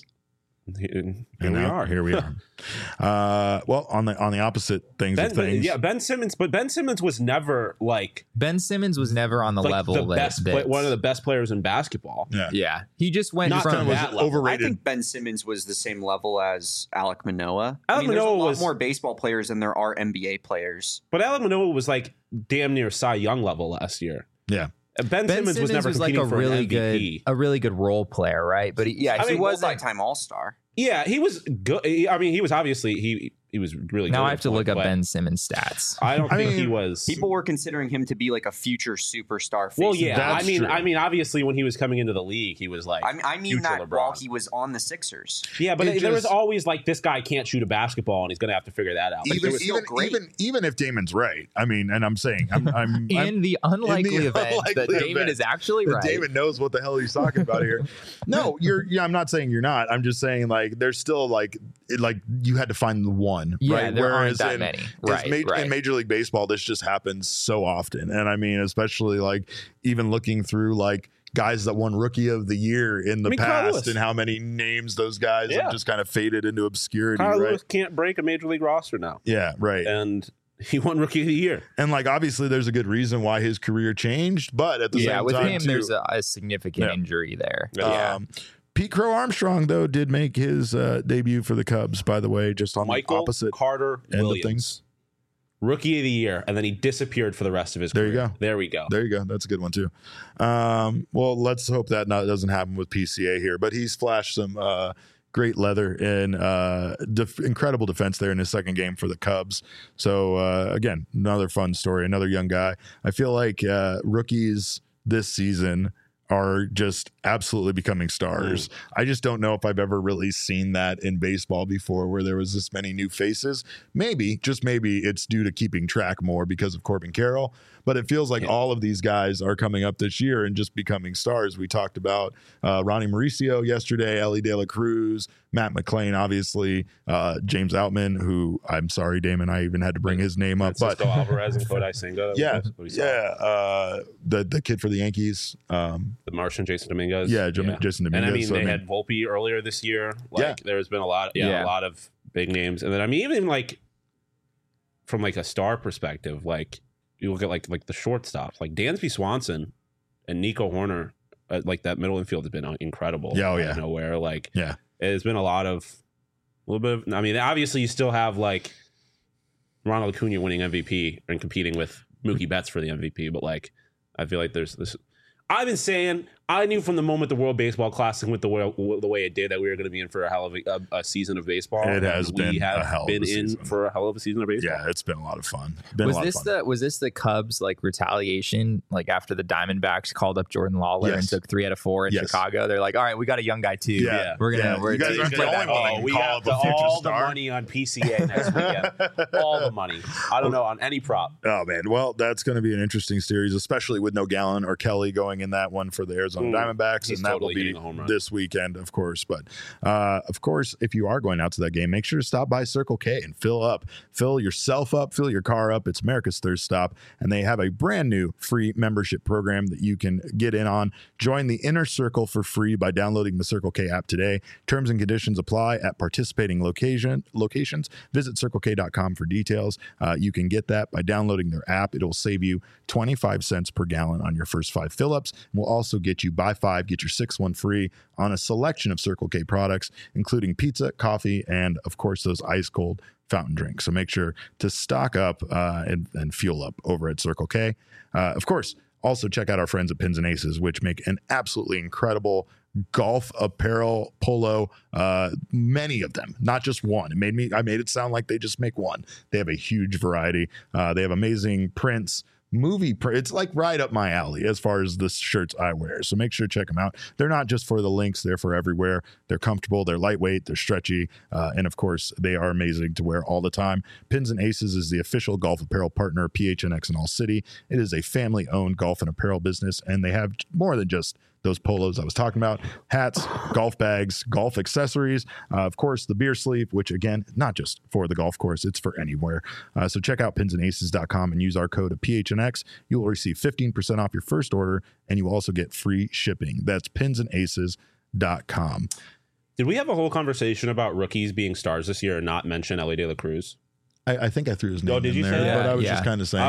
Here we are. Well, on the opposite things of things. Ben Simmons, but Ben Simmons was never like Ben Simmons was never on the level one of the best players in basketball. Yeah. He just went from that level. Overrated. I think Ben Simmons was the same level as Alek Manoah. There's a lot more baseball players than there are NBA players. But Alek Manoah was like damn near Cy Young level last year. Yeah. Ben Simmons was never competing like for an MVP. a really good role player, right? But he was multi-time All-Star. Yeah, he was good. I mean, he was obviously he was really good. Now I have to look up Ben Simmons' stats. I don't think he was. People were considering him to be like a future superstar. Well, yeah, I mean, obviously when he was coming into the league, he was like I mean that LeBron. While he was on the Sixers. Yeah, but there was always like this guy can't shoot a basketball and he's going to have to figure that out. Even if Damon's right, I mean, and I'm saying I'm in the unlikely event that Damon is actually right. Damon knows what the hell he's talking about here. No, I'm not saying you're not. I'm just saying like there's still like you had to find the one. Yeah, right? there aren't that many. Right. In Major League Baseball, this just happens so often. And I mean, especially like even looking through like guys that won Rookie of the Year in the past and how many names those guys have just kind of faded into obscurity. Kyle Lewis can't break a Major League roster now. Yeah, right. And he won Rookie of the Year. And like obviously there's a good reason why his career changed, but at the same time, with him, there's a significant injury there. Pete Crow Armstrong, though, did make his debut for the Cubs, by the way, just on the opposite Carter end Williams. of things. Rookie of the Year, and then he disappeared for the rest of his career. There we go. That's a good one, too. Well, let's hope that doesn't happen with PCA here, but he's flashed some great leather and incredible defense there in his second game for the Cubs. So, again, another fun story, another young guy. I feel like rookies this season are just absolutely becoming stars. I just don't know if I've ever really seen that in baseball before where there was this many new faces. Maybe, just maybe it's due to keeping track more because of Corbin Carroll. but it feels like all of these guys are coming up this year and just becoming stars. We talked about Ronnie Mauricio yesterday, Ellie De La Cruz, Matt McClain, obviously, James Outman, who I'm sorry, Damon, I even had to bring his name up. Francisco Alvarez and Kodai Senga. The kid for the Yankees, the Martian, Jason Dominguez. Jason Dominguez. And I mean, they had Volpe earlier this year. There's been a lot of big names, and then I mean, even like from like a star perspective, like you look at like the shortstops, like Dansby Swanson and Nico Horner, like that middle infield has been incredible. Out of nowhere, there's been a little bit of, I mean, obviously you still have like Ronald Acuna winning MVP and competing with Mookie Betts for the MVP, but like I feel like there's this. I've been saying, I knew from the moment the World Baseball Classic went the way it did that we were going to be in for a hell of a season of baseball. It has been a hell of a season. For a hell of a season of baseball. Yeah, it's been a lot of fun. Was this the Cubs like retaliation? Like after the Diamondbacks called up Jordan Lawler and took 3 out of 4 in Chicago, they're like, all right, we got a young guy too. Yeah, we're gonna. You guys aren't the only one. We have all the money on PCA next weekend. All the money. I don't know on any prop. Oh man, well that's going to be an interesting series, especially with no Gallen or Kelly going in that one for the Arizona Diamondbacks. He's and that totally will be this weekend, of course. But of course, if you are going out to that game, make sure to stop by Circle K and fill yourself up, fill your car up. It's America's Thirst Stop, and they have a brand new free membership program that you can get in on. Join the Inner Circle for free by downloading the Circle K app today. Terms and conditions apply at participating locations. Visit CircleK.com for details. You can get that by downloading their app. It'll save you 25 cents per gallon on your first 5 fill-ups. And we'll also get you buy 5, get your 6th one free on a selection of Circle K products, including pizza, coffee, and of course those ice cold fountain drinks. So make sure to stock up and fuel up over at Circle K. Of course, also check out our friends at Pins and Aces, which make an absolutely incredible golf apparel polo, many of them, not just one. I made it sound like they just make one. They have a huge variety. They have amazing prints, it's like right up my alley as far as the shirts I wear. So make sure to check them out. They're not just for the links, they're for everywhere. They're comfortable, they're lightweight, they're stretchy, and of course they are amazing to wear all the time. Pins and Aces is the official golf apparel partner of PHNX in All City. It is a family-owned golf and apparel business, and they have more than just those polos I was talking about, hats, golf bags, golf accessories, of course, the beer sleeve, which again, not just for the golf course, it's for anywhere. So check out pinsandaces.com and use our code of PHNX. You will receive 15% off your first order, and you will also get free shipping. That's pinsandaces.com. Did we have a whole conversation about rookies being stars this year and not mention Ellie De La Cruz? I think I threw his name did in you there, say that? But I was just kind of saying.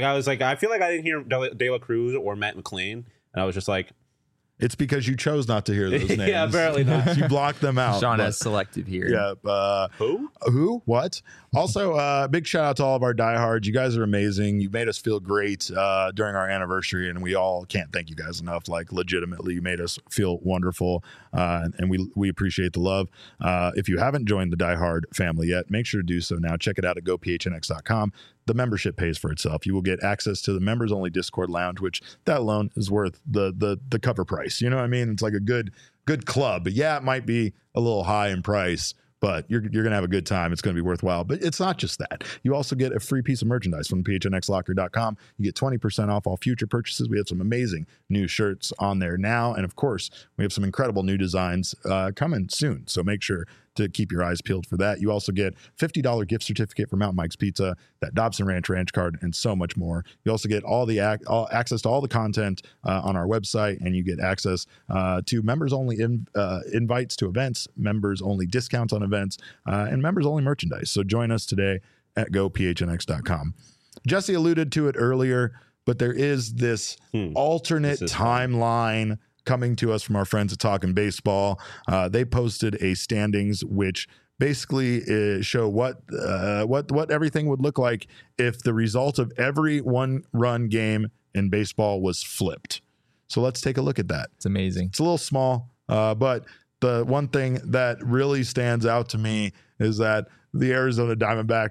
I feel like I didn't hear De La Cruz or Matt McClain, and I was just like, it's because you chose not to hear those names. Yeah, apparently not. You blocked them out. Sean has selective hearing. Yeah. Who? What? Also, big shout out to all of our diehards. You guys are amazing. You made us feel great during our anniversary, and we all can't thank you guys enough. Like, legitimately, you made us feel wonderful, and we appreciate the love. If you haven't joined the diehard family yet, make sure to do so now. Check it out at gophnx.com. The membership pays for itself. You will get access to the members only Discord lounge, which that alone is worth the cover price. You know what I mean? It's like a good club. But yeah, it might be a little high in price, but you're going to have a good time. It's going to be worthwhile. But it's not just that. You also get a free piece of merchandise from phnxlocker.com. You get 20% off all future purchases. We have some amazing new shirts on there now. And of course, we have some incredible new designs coming soon. So make sure to keep your eyes peeled for that. You also get $50 gift certificate for Mountain Mike's Pizza, that Dobson Ranch card, and so much more. You also get all access to all the content on our website, and you get access to members-only invites to events, members-only discounts on events, and members-only merchandise. So join us today at gophnx.com. Jesse alluded to it earlier, but there is this alternate timeline coming to us from our friends at Talkin' Baseball. They posted a standings which basically show what everything would look like if the result of every one-run game in baseball was flipped. So let's take a look at that. It's amazing. It's a little small, but the one thing that really stands out to me is that the Arizona Diamondbacks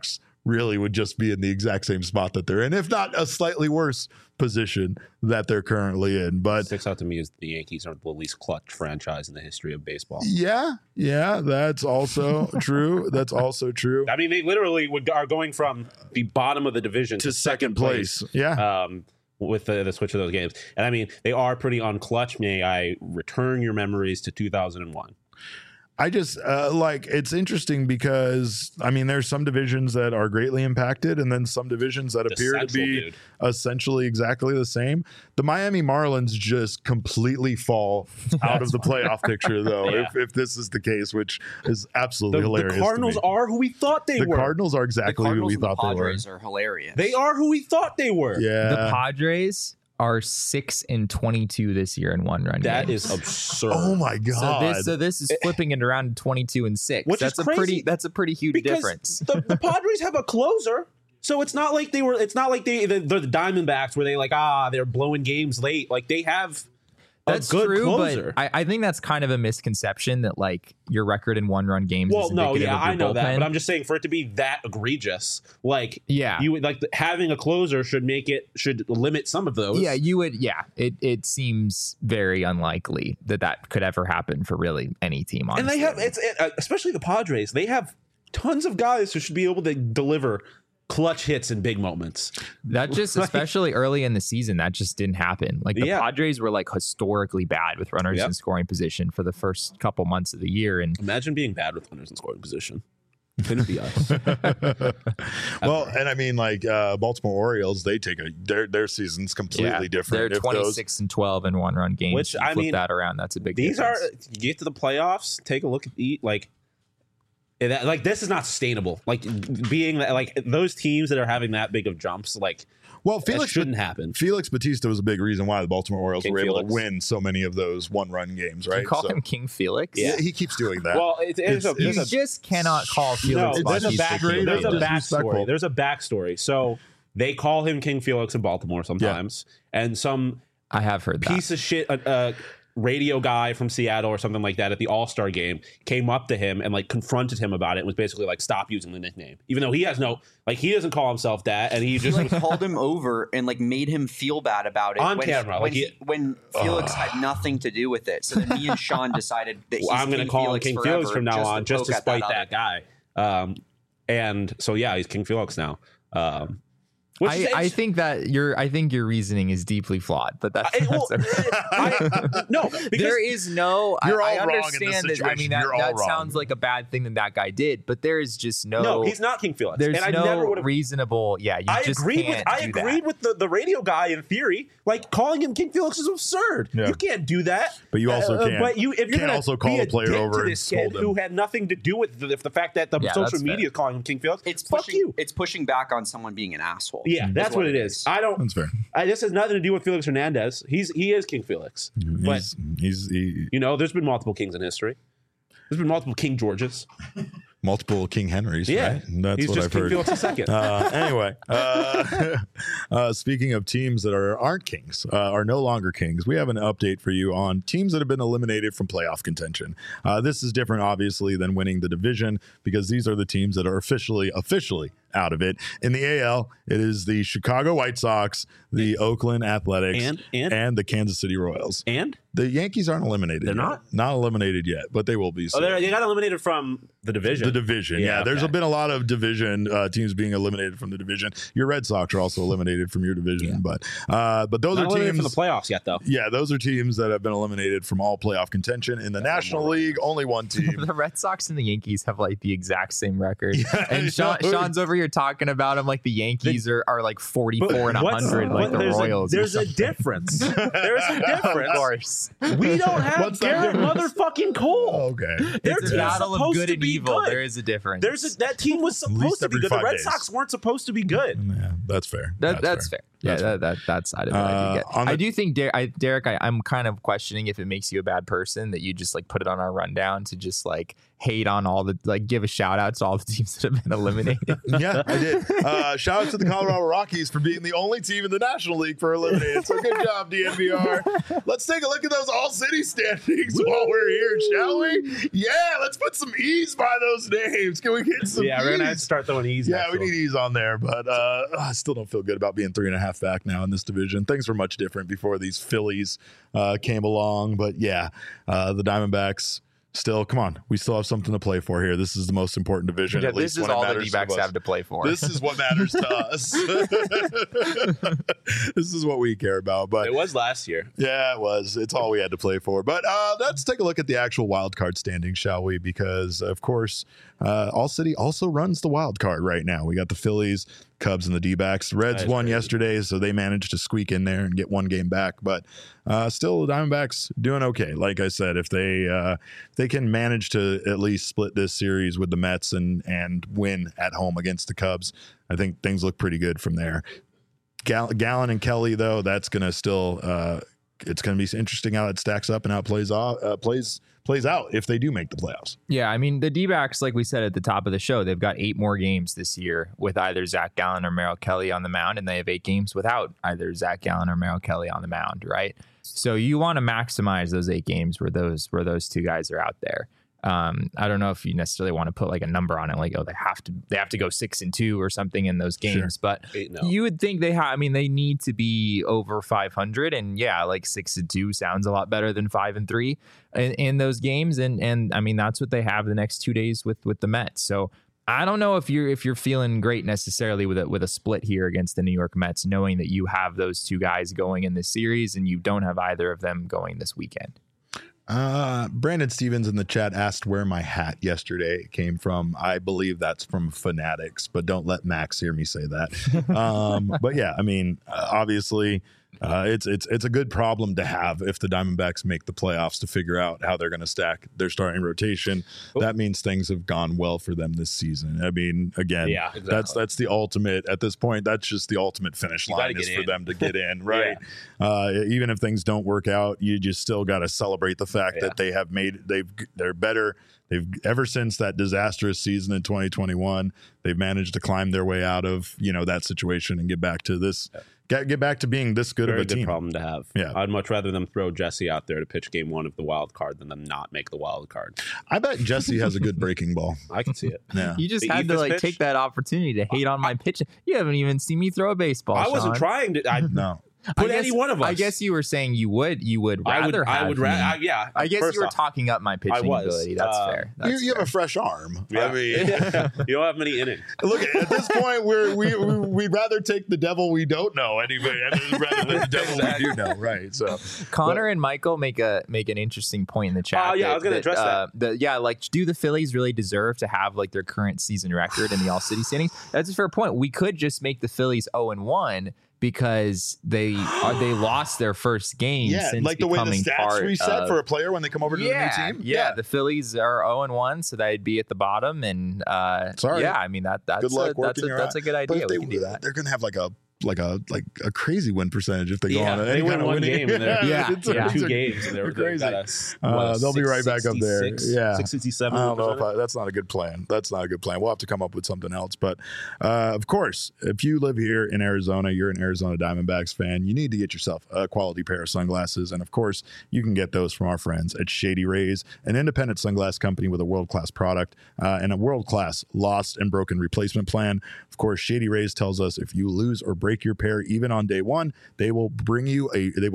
really would just be in the exact same spot that they're in, if not a slightly worse position that they're currently in. But sticks out to me is the Yankees are the least clutch franchise in the history of baseball. Yeah, that's also true. That's also true. I mean, they literally are going from the bottom of the division to second place. Yeah. With the switch of those games. And I mean, they are pretty unclutch. May I return your memories to 2001? I just it's interesting because I mean there's some divisions that are greatly impacted and then some divisions that appear to be essentially exactly the same. The Miami Marlins just completely fall out of the playoff picture though, if this is the case, which is absolutely hilarious. The Cardinals are who we thought they were. The Cardinals are exactly who we thought they were. The Padres are hilarious. They are who we thought they were. Yeah. The Padres are 6-22 this year in one-run That games. is absurd. Oh my god! So this is flipping it around to 22-6. Which is crazy. That's a pretty huge difference. The Padres have a closer, so it's not like they're the Diamondbacks where they're blowing games late. Like they have. That's good true, closer. But I think that's kind of a misconception that like your record in one-run games. Well, is indicative of your I know bullpen. that, but I'm just saying for it to be that egregious, you would having a closer should limit some of those. Yeah, you would. Yeah, it seems very unlikely that could ever happen for really any team. Honestly. And they have especially the Padres. They have tons of guys who should be able to deliver clutch hits in big moments. That just, especially early in the season, that just didn't happen. Like the Padres were like historically bad with runners in scoring position for the first couple months of the year. And imagine being bad with runners in scoring position. Couldn't be us. Well, and I mean, Baltimore Orioles, they take their season's completely different. They're 26-12 in one-run games. Which I mean, flip that around. That's a big. These difference. You get to the playoffs, take a look at this is not sustainable. Being those teams that are having that big of jumps, Felix shouldn't happen. Felix Bautista was a big reason why the Baltimore Orioles were able to win so many of those one-run games, right? You call him King Felix? Yeah, he keeps doing that. Well, you just cannot call Felix Bautista. There's a backstory. There's a backstory. So they call him King Felix in Baltimore sometimes, and some I have heard piece of shit. Radio guy from Seattle or something like that at the All-Star game came up to him and confronted him about it and was basically stop using the nickname, even though he has he doesn't call himself that, and he just called him over and made him feel bad about it on camera when Felix had nothing to do with it. So then me and Sean decided that I'm going to call him King Felix from now on just to spite that guy. And so he's King Felix now. I think your reasoning is deeply flawed, but that's no. Because there is no. You're all I wrong understand in this that. I mean, that sounds like a bad thing that guy did, but there is just no. No, he's not King Felix. There's and no I never would have reasonable. Yeah, I agreed with the radio guy in theory. Calling him King Felix is absurd. Yeah. You can't do that. But you also can't. But if you're can't also call a player over and scold him, who had nothing to do with the fact that the social media is calling him King Felix. It's pushing back on someone being an asshole. Yeah, that's what it is. That's fair. This has nothing to do with Felix Hernandez. He is King Felix. But there's been multiple kings in history. There's been multiple King Georges. Multiple King Henrys. Yeah, right? That's he's what just I've King heard. Felix II. Anyway, speaking of teams that aren't kings, are no longer kings, we have an update for you on teams that have been eliminated from playoff contention. This is different, obviously, than winning the division because these are the teams that are officially out of it. In the AL, it is the Chicago White Sox, the Oakland Athletics, and the Kansas City Royals. And the Yankees aren't eliminated. They're yet. Not eliminated yet, but they will be soon. They got eliminated from the division. The division, yeah. There's been a lot of division teams being eliminated from the division. Your Red Sox are also eliminated from your division, but those not are teams from the playoffs yet, though. Yeah, those are teams that have been eliminated from all playoff contention. In the National League, only one team. The Red Sox and the Yankees have the exact same record. And Sean's over here talking about them like the Yankees are 44 and 100 like the Royals. There's a difference. There's a difference. Of course. We don't have Garrett motherfucking Cole. Okay. It's a battle of good and evil. There is a difference. That team was supposed to be good. The Red Sox weren't supposed to be good. Yeah, that's fair. That's fair. Yeah, that side of it I do get. I do think, Derek, I'm kind of questioning if it makes you a bad person that you just like put it on our rundown to just like hate on all the, like, give a shout out to all the teams that have been eliminated. Yeah, I did. Shout out to the Colorado Rockies for being the only team in the National League for eliminated. So good job, DNVR. Let's take a look at those all-city standings while we're here, shall we? Yeah, let's put some E's by those names. Can we get some Yeah, we're going to have to start throwing E's. Yeah, we need E's on there, but I still don't feel good about being 3.5 back now in this division. Things were much different before these Phillies came along, but yeah, the Diamondbacks still, come on, we still have something to play for here. This is the most important division. Yeah, at least this is all the D-backs have to play for. This is what matters to us. This is what we care about. But it was last year. Yeah, it was. It's all we had to play for. But let's take a look at the actual wild card standings, shall we? Because of course, All City also runs the wild card right now. We got the Phillies, Cubs, and the D-backs. Reds won yesterday, so they managed to squeak in there and get one game back. But still, the Diamondbacks doing okay. Like I said, if they can manage to at least split this series with the Mets and win at home against the Cubs, I think things look pretty good from there. Gallen and Kelly, though, that's going to still it's going to be interesting how it stacks up and how it plays out if they do make the playoffs. Yeah, I mean, the D-backs, like we said at the top of the show, they've got 8 more games this year with either Zach Gallen or Merrill Kelly on the mound, and they have 8 games without either Zach Gallen or Merrill Kelly on the mound, right? So you want to maximize those 8 games where those two guys are out there. I don't know if you necessarily want to put like a number on it, like, oh, they have to go 6-2 or something in those games, sure. But you would think they need to be over 500, and yeah, like 6-2 sounds a lot better than 5-3 in those games, and I mean that's what they have the next 2 days with the Mets. So I don't know if you're feeling great necessarily with a split here against the New York Mets, knowing that you have those two guys going in this series and you don't have either of them going this weekend. Brandon Stevens in the chat asked where my hat yesterday came from. I believe that's from Fanatics, but don't let Max hear me say that. But yeah, I mean, obviously, it's a good problem to have if the Diamondbacks make the playoffs to figure out how they're going to stack their starting rotation. That means things have gone well for them this season. I mean, again, yeah, exactly. that's the ultimate at this point. That's just the ultimate finish line is for them to get in, right? Even if things don't work out, you just still got to celebrate the fact that they're better. They've ever since that disastrous season in 2021, they've managed to climb their way out of that situation and get back to this. Get back to being this good Very of a team. Good problem to have. Yeah, I'd much rather them throw Jesse out there to pitch game 1 of the wild card than them not make the wild card. I bet Jesse has a good breaking ball. I can see it. Yeah, you just had to take that opportunity to hate on my pitch. You haven't even seen me throw a baseball. I wasn't trying to. No. Put any one of us. I guess you were saying you would rather have. I would rather. Yeah. I guess you were talking up my pitching ability. That's fair. You have a fresh arm. Yeah. I mean, you don't have many innings. Look, at this point, we'd rather take the devil we don't know anyway, rather than the devil we do know. Right. So Connor and Michael make an interesting point in the chat. I was going to address that. Like, do the Phillies really deserve to have like their current season record in the All City standings? That's a fair point. We could just make the Phillies 0-1. Because they lost their first game since like the way the stats reset for a player when they come over to the new team. Yeah, the Phillies are 0-1, so they'd be at the bottom. And sorry, yeah, I mean that's good luck that's a good idea. We can do that. They're gonna have like a crazy win percentage if they go on they win one game and they're 2 games and they're crazy. They'll be right back up there. Yeah, 667. I don't know if that's not a good plan. That's not a good plan. We'll have to come up with something else. But of course, if you live here in Arizona, you're an Arizona Diamondbacks fan, you need to get yourself a quality pair of sunglasses. And of course, you can get those from our friends at Shady Rays, an independent sunglass company with a world-class product and a world-class lost and broken replacement plan. Of course, Shady Rays tells us if you lose or break your pair even on day 1, they will bring you.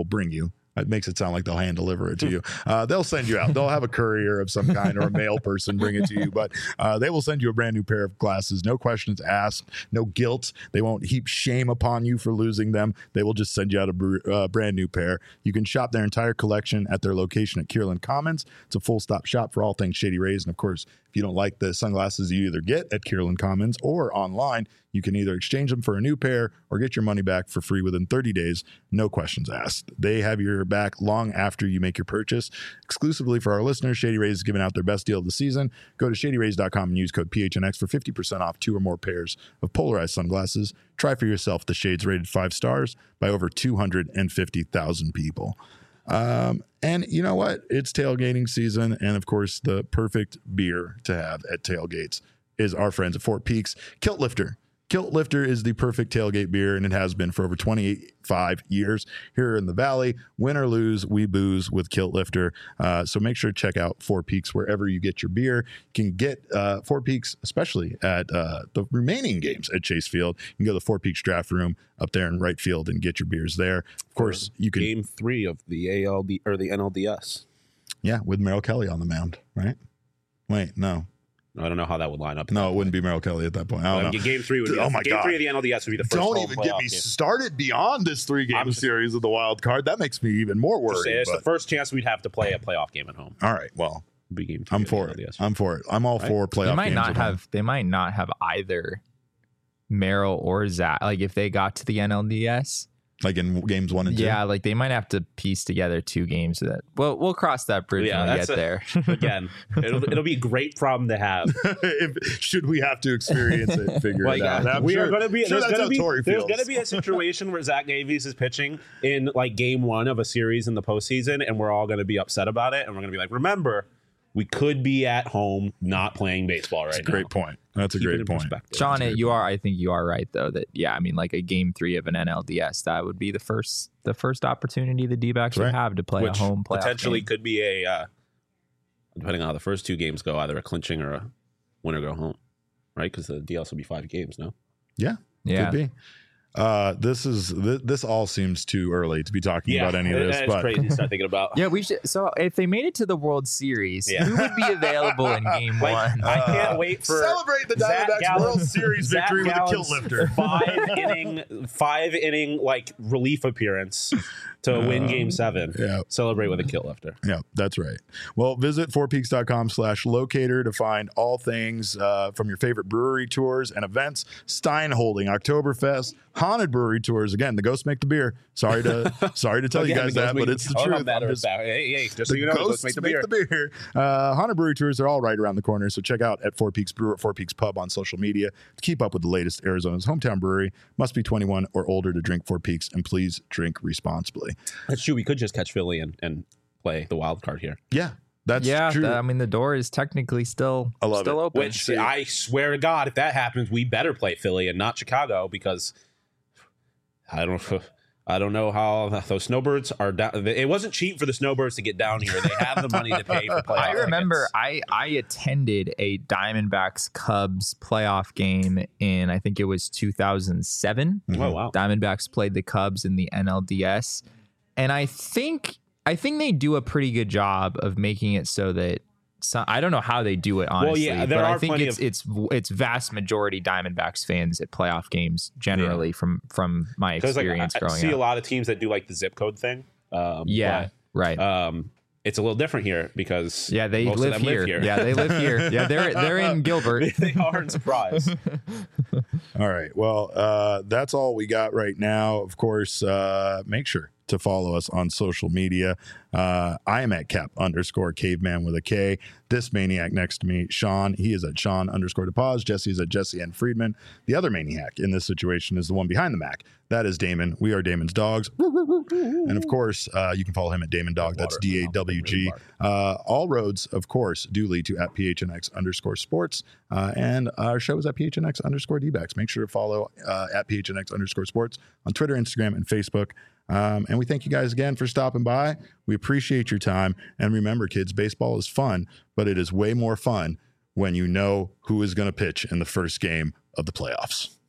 It makes it sound like they'll hand deliver it to you. They'll send you out. They'll have a courier of some kind or a mail person bring it to you. But they will send you a brand new pair of glasses. No questions asked. No guilt. They won't heap shame upon you for losing them. They will just send you out a brand new pair. You can shop their entire collection at their location at Kierland Commons. It's a full-stop shop for all things Shady Rays. And, of course, If you don't like the sunglasses you either get at Kierland Commons or online, you can either exchange them for a new pair or get your money back for free within 30 days, no questions asked. They have your back long after you make your purchase. Exclusively for our listeners, Shady Rays is giving out their best deal of the season. Go to shadyrays.com and use code PHNX for 50% off 2 or more pairs of polarized sunglasses. Try for yourself the shades rated 5 stars by over 250,000 people. And you know what? It's tailgating season. And of course, the perfect beer to have at tailgates is our friends at Fort Peaks Kilt Lifter. Kilt Lifter is the perfect tailgate beer, and it has been for over 25 years here in the Valley. Win or lose, we booze with Kilt Lifter. So make sure to check out Fort Peaks wherever you get your beer. You can get Fort Peaks, especially at the remaining games at Chase Field. You can go to the Fort Peaks draft room up there in right field and get your beers there. Of course, you can. Game 3 of the ALD or the NLDS. Yeah, with Merrill Kelly on the mound, right? Wait, no. I don't know how that would line up. No, it wouldn't be Merrill Kelly at that point. I don't know. Game 3 would be Game 3 of the NLDS would be the first. Don't even get me started beyond this 3-game series of the wild card. That makes me even more worried. It's the first chance we'd have to play a playoff game at home. All right, well, be game 3 I'm for it. I'm for it. I'm all for playoff games. They might not have either Merrill or Zach. Like if they got to the NLDS. Like in games 1 and 2? Yeah, like they might have to piece together 2 games of that. Well, we'll cross that bridge when we get there. Again, it'll be a great problem to have. Should we have to experience it, figure it out. There's going to be a situation where Zach Davies is pitching in like game 1 of a series in the postseason, and we're all going to be upset about it, and we're going to be like, remember, we could be at home not playing baseball right now. Great point. That's a great point. Sean, I think you are right though that I mean like a game 3 of an NLDS, that would be the first opportunity the D-backs would have to play a home playoff potentially game. Could be a depending on how the first 2 games go, either a clinching or a win or go home, right? Because the DS will be 5 games, no? Yeah. Could be. This all seems too early to be talking about any of this. It's crazy to start thinking about. Yeah, we should. So if they made it to the World Series, who would be available in Game 1? I can't wait for celebrate the Diamondbacks World Series victory with a Kilt Lifter. 5 inning like relief appearance to win Game 7. Yeah. Celebrate with a Kilt Lifter. Yeah, that's right. Well, visit fortpeaks.com/locator to find all things from your favorite brewery tours and events. Stein Holding, Oktoberfest, Haunted Brewery Tours. Again, the ghosts make the beer. Sorry to tell you guys that, but it's the truth. Just so you know, the ghosts make the beer. Haunted Brewery Tours are all right around the corner, so check out at Fort Peaks Brew at Fort Peaks Pub on social media to keep up with the latest. Arizona's hometown brewery. Must be 21 or older to drink Fort Peaks, and please drink responsibly. That's true. We could just catch Philly and play the wild card here. Yeah. That's true. I mean, the door is technically still open. Which I swear to God, if that happens, we better play Philly and not Chicago, because I don't know how those snowbirds are down. It wasn't cheap for the snowbirds to get down here. They have the money to pay for playoff I remember tickets. I attended a Diamondbacks Cubs playoff game in, I think it was 2007. Oh, wow. Diamondbacks played the Cubs in the NLDS. And I think they do a pretty good job of making it so that I don't know how they do it, honestly. Well, yeah, but I think it's vast majority Diamondbacks fans at playoff games generally from my experience growing up. I see a lot of teams that do like the zip code thing. Right. It's a little different here because they live here. Yeah, they live here. Yeah, they're in Gilbert. They are in Surprise. All right. Well, that's all we got right now. Of course, make sure to follow us on social media. I am at Cap_caveman with a K. This maniac next to me, Sean, he is at Sean_DePaz. Jesse is at Jesse N. Friedman. The other maniac in this situation is the one behind the Mac. That is Damon. We are Damon's dogs. And of course, you can follow him at Damon Dog. That's DAWG. All roads, of course, do lead to at PHNX_sports. And our show is at PHNX_DBacks. Make sure to follow at PHNX_sports on Twitter, Instagram, and Facebook. And we thank you guys again for stopping by. We appreciate your time. And remember, kids, baseball is fun, but it is way more fun when you know who is going to pitch in the first game of the playoffs.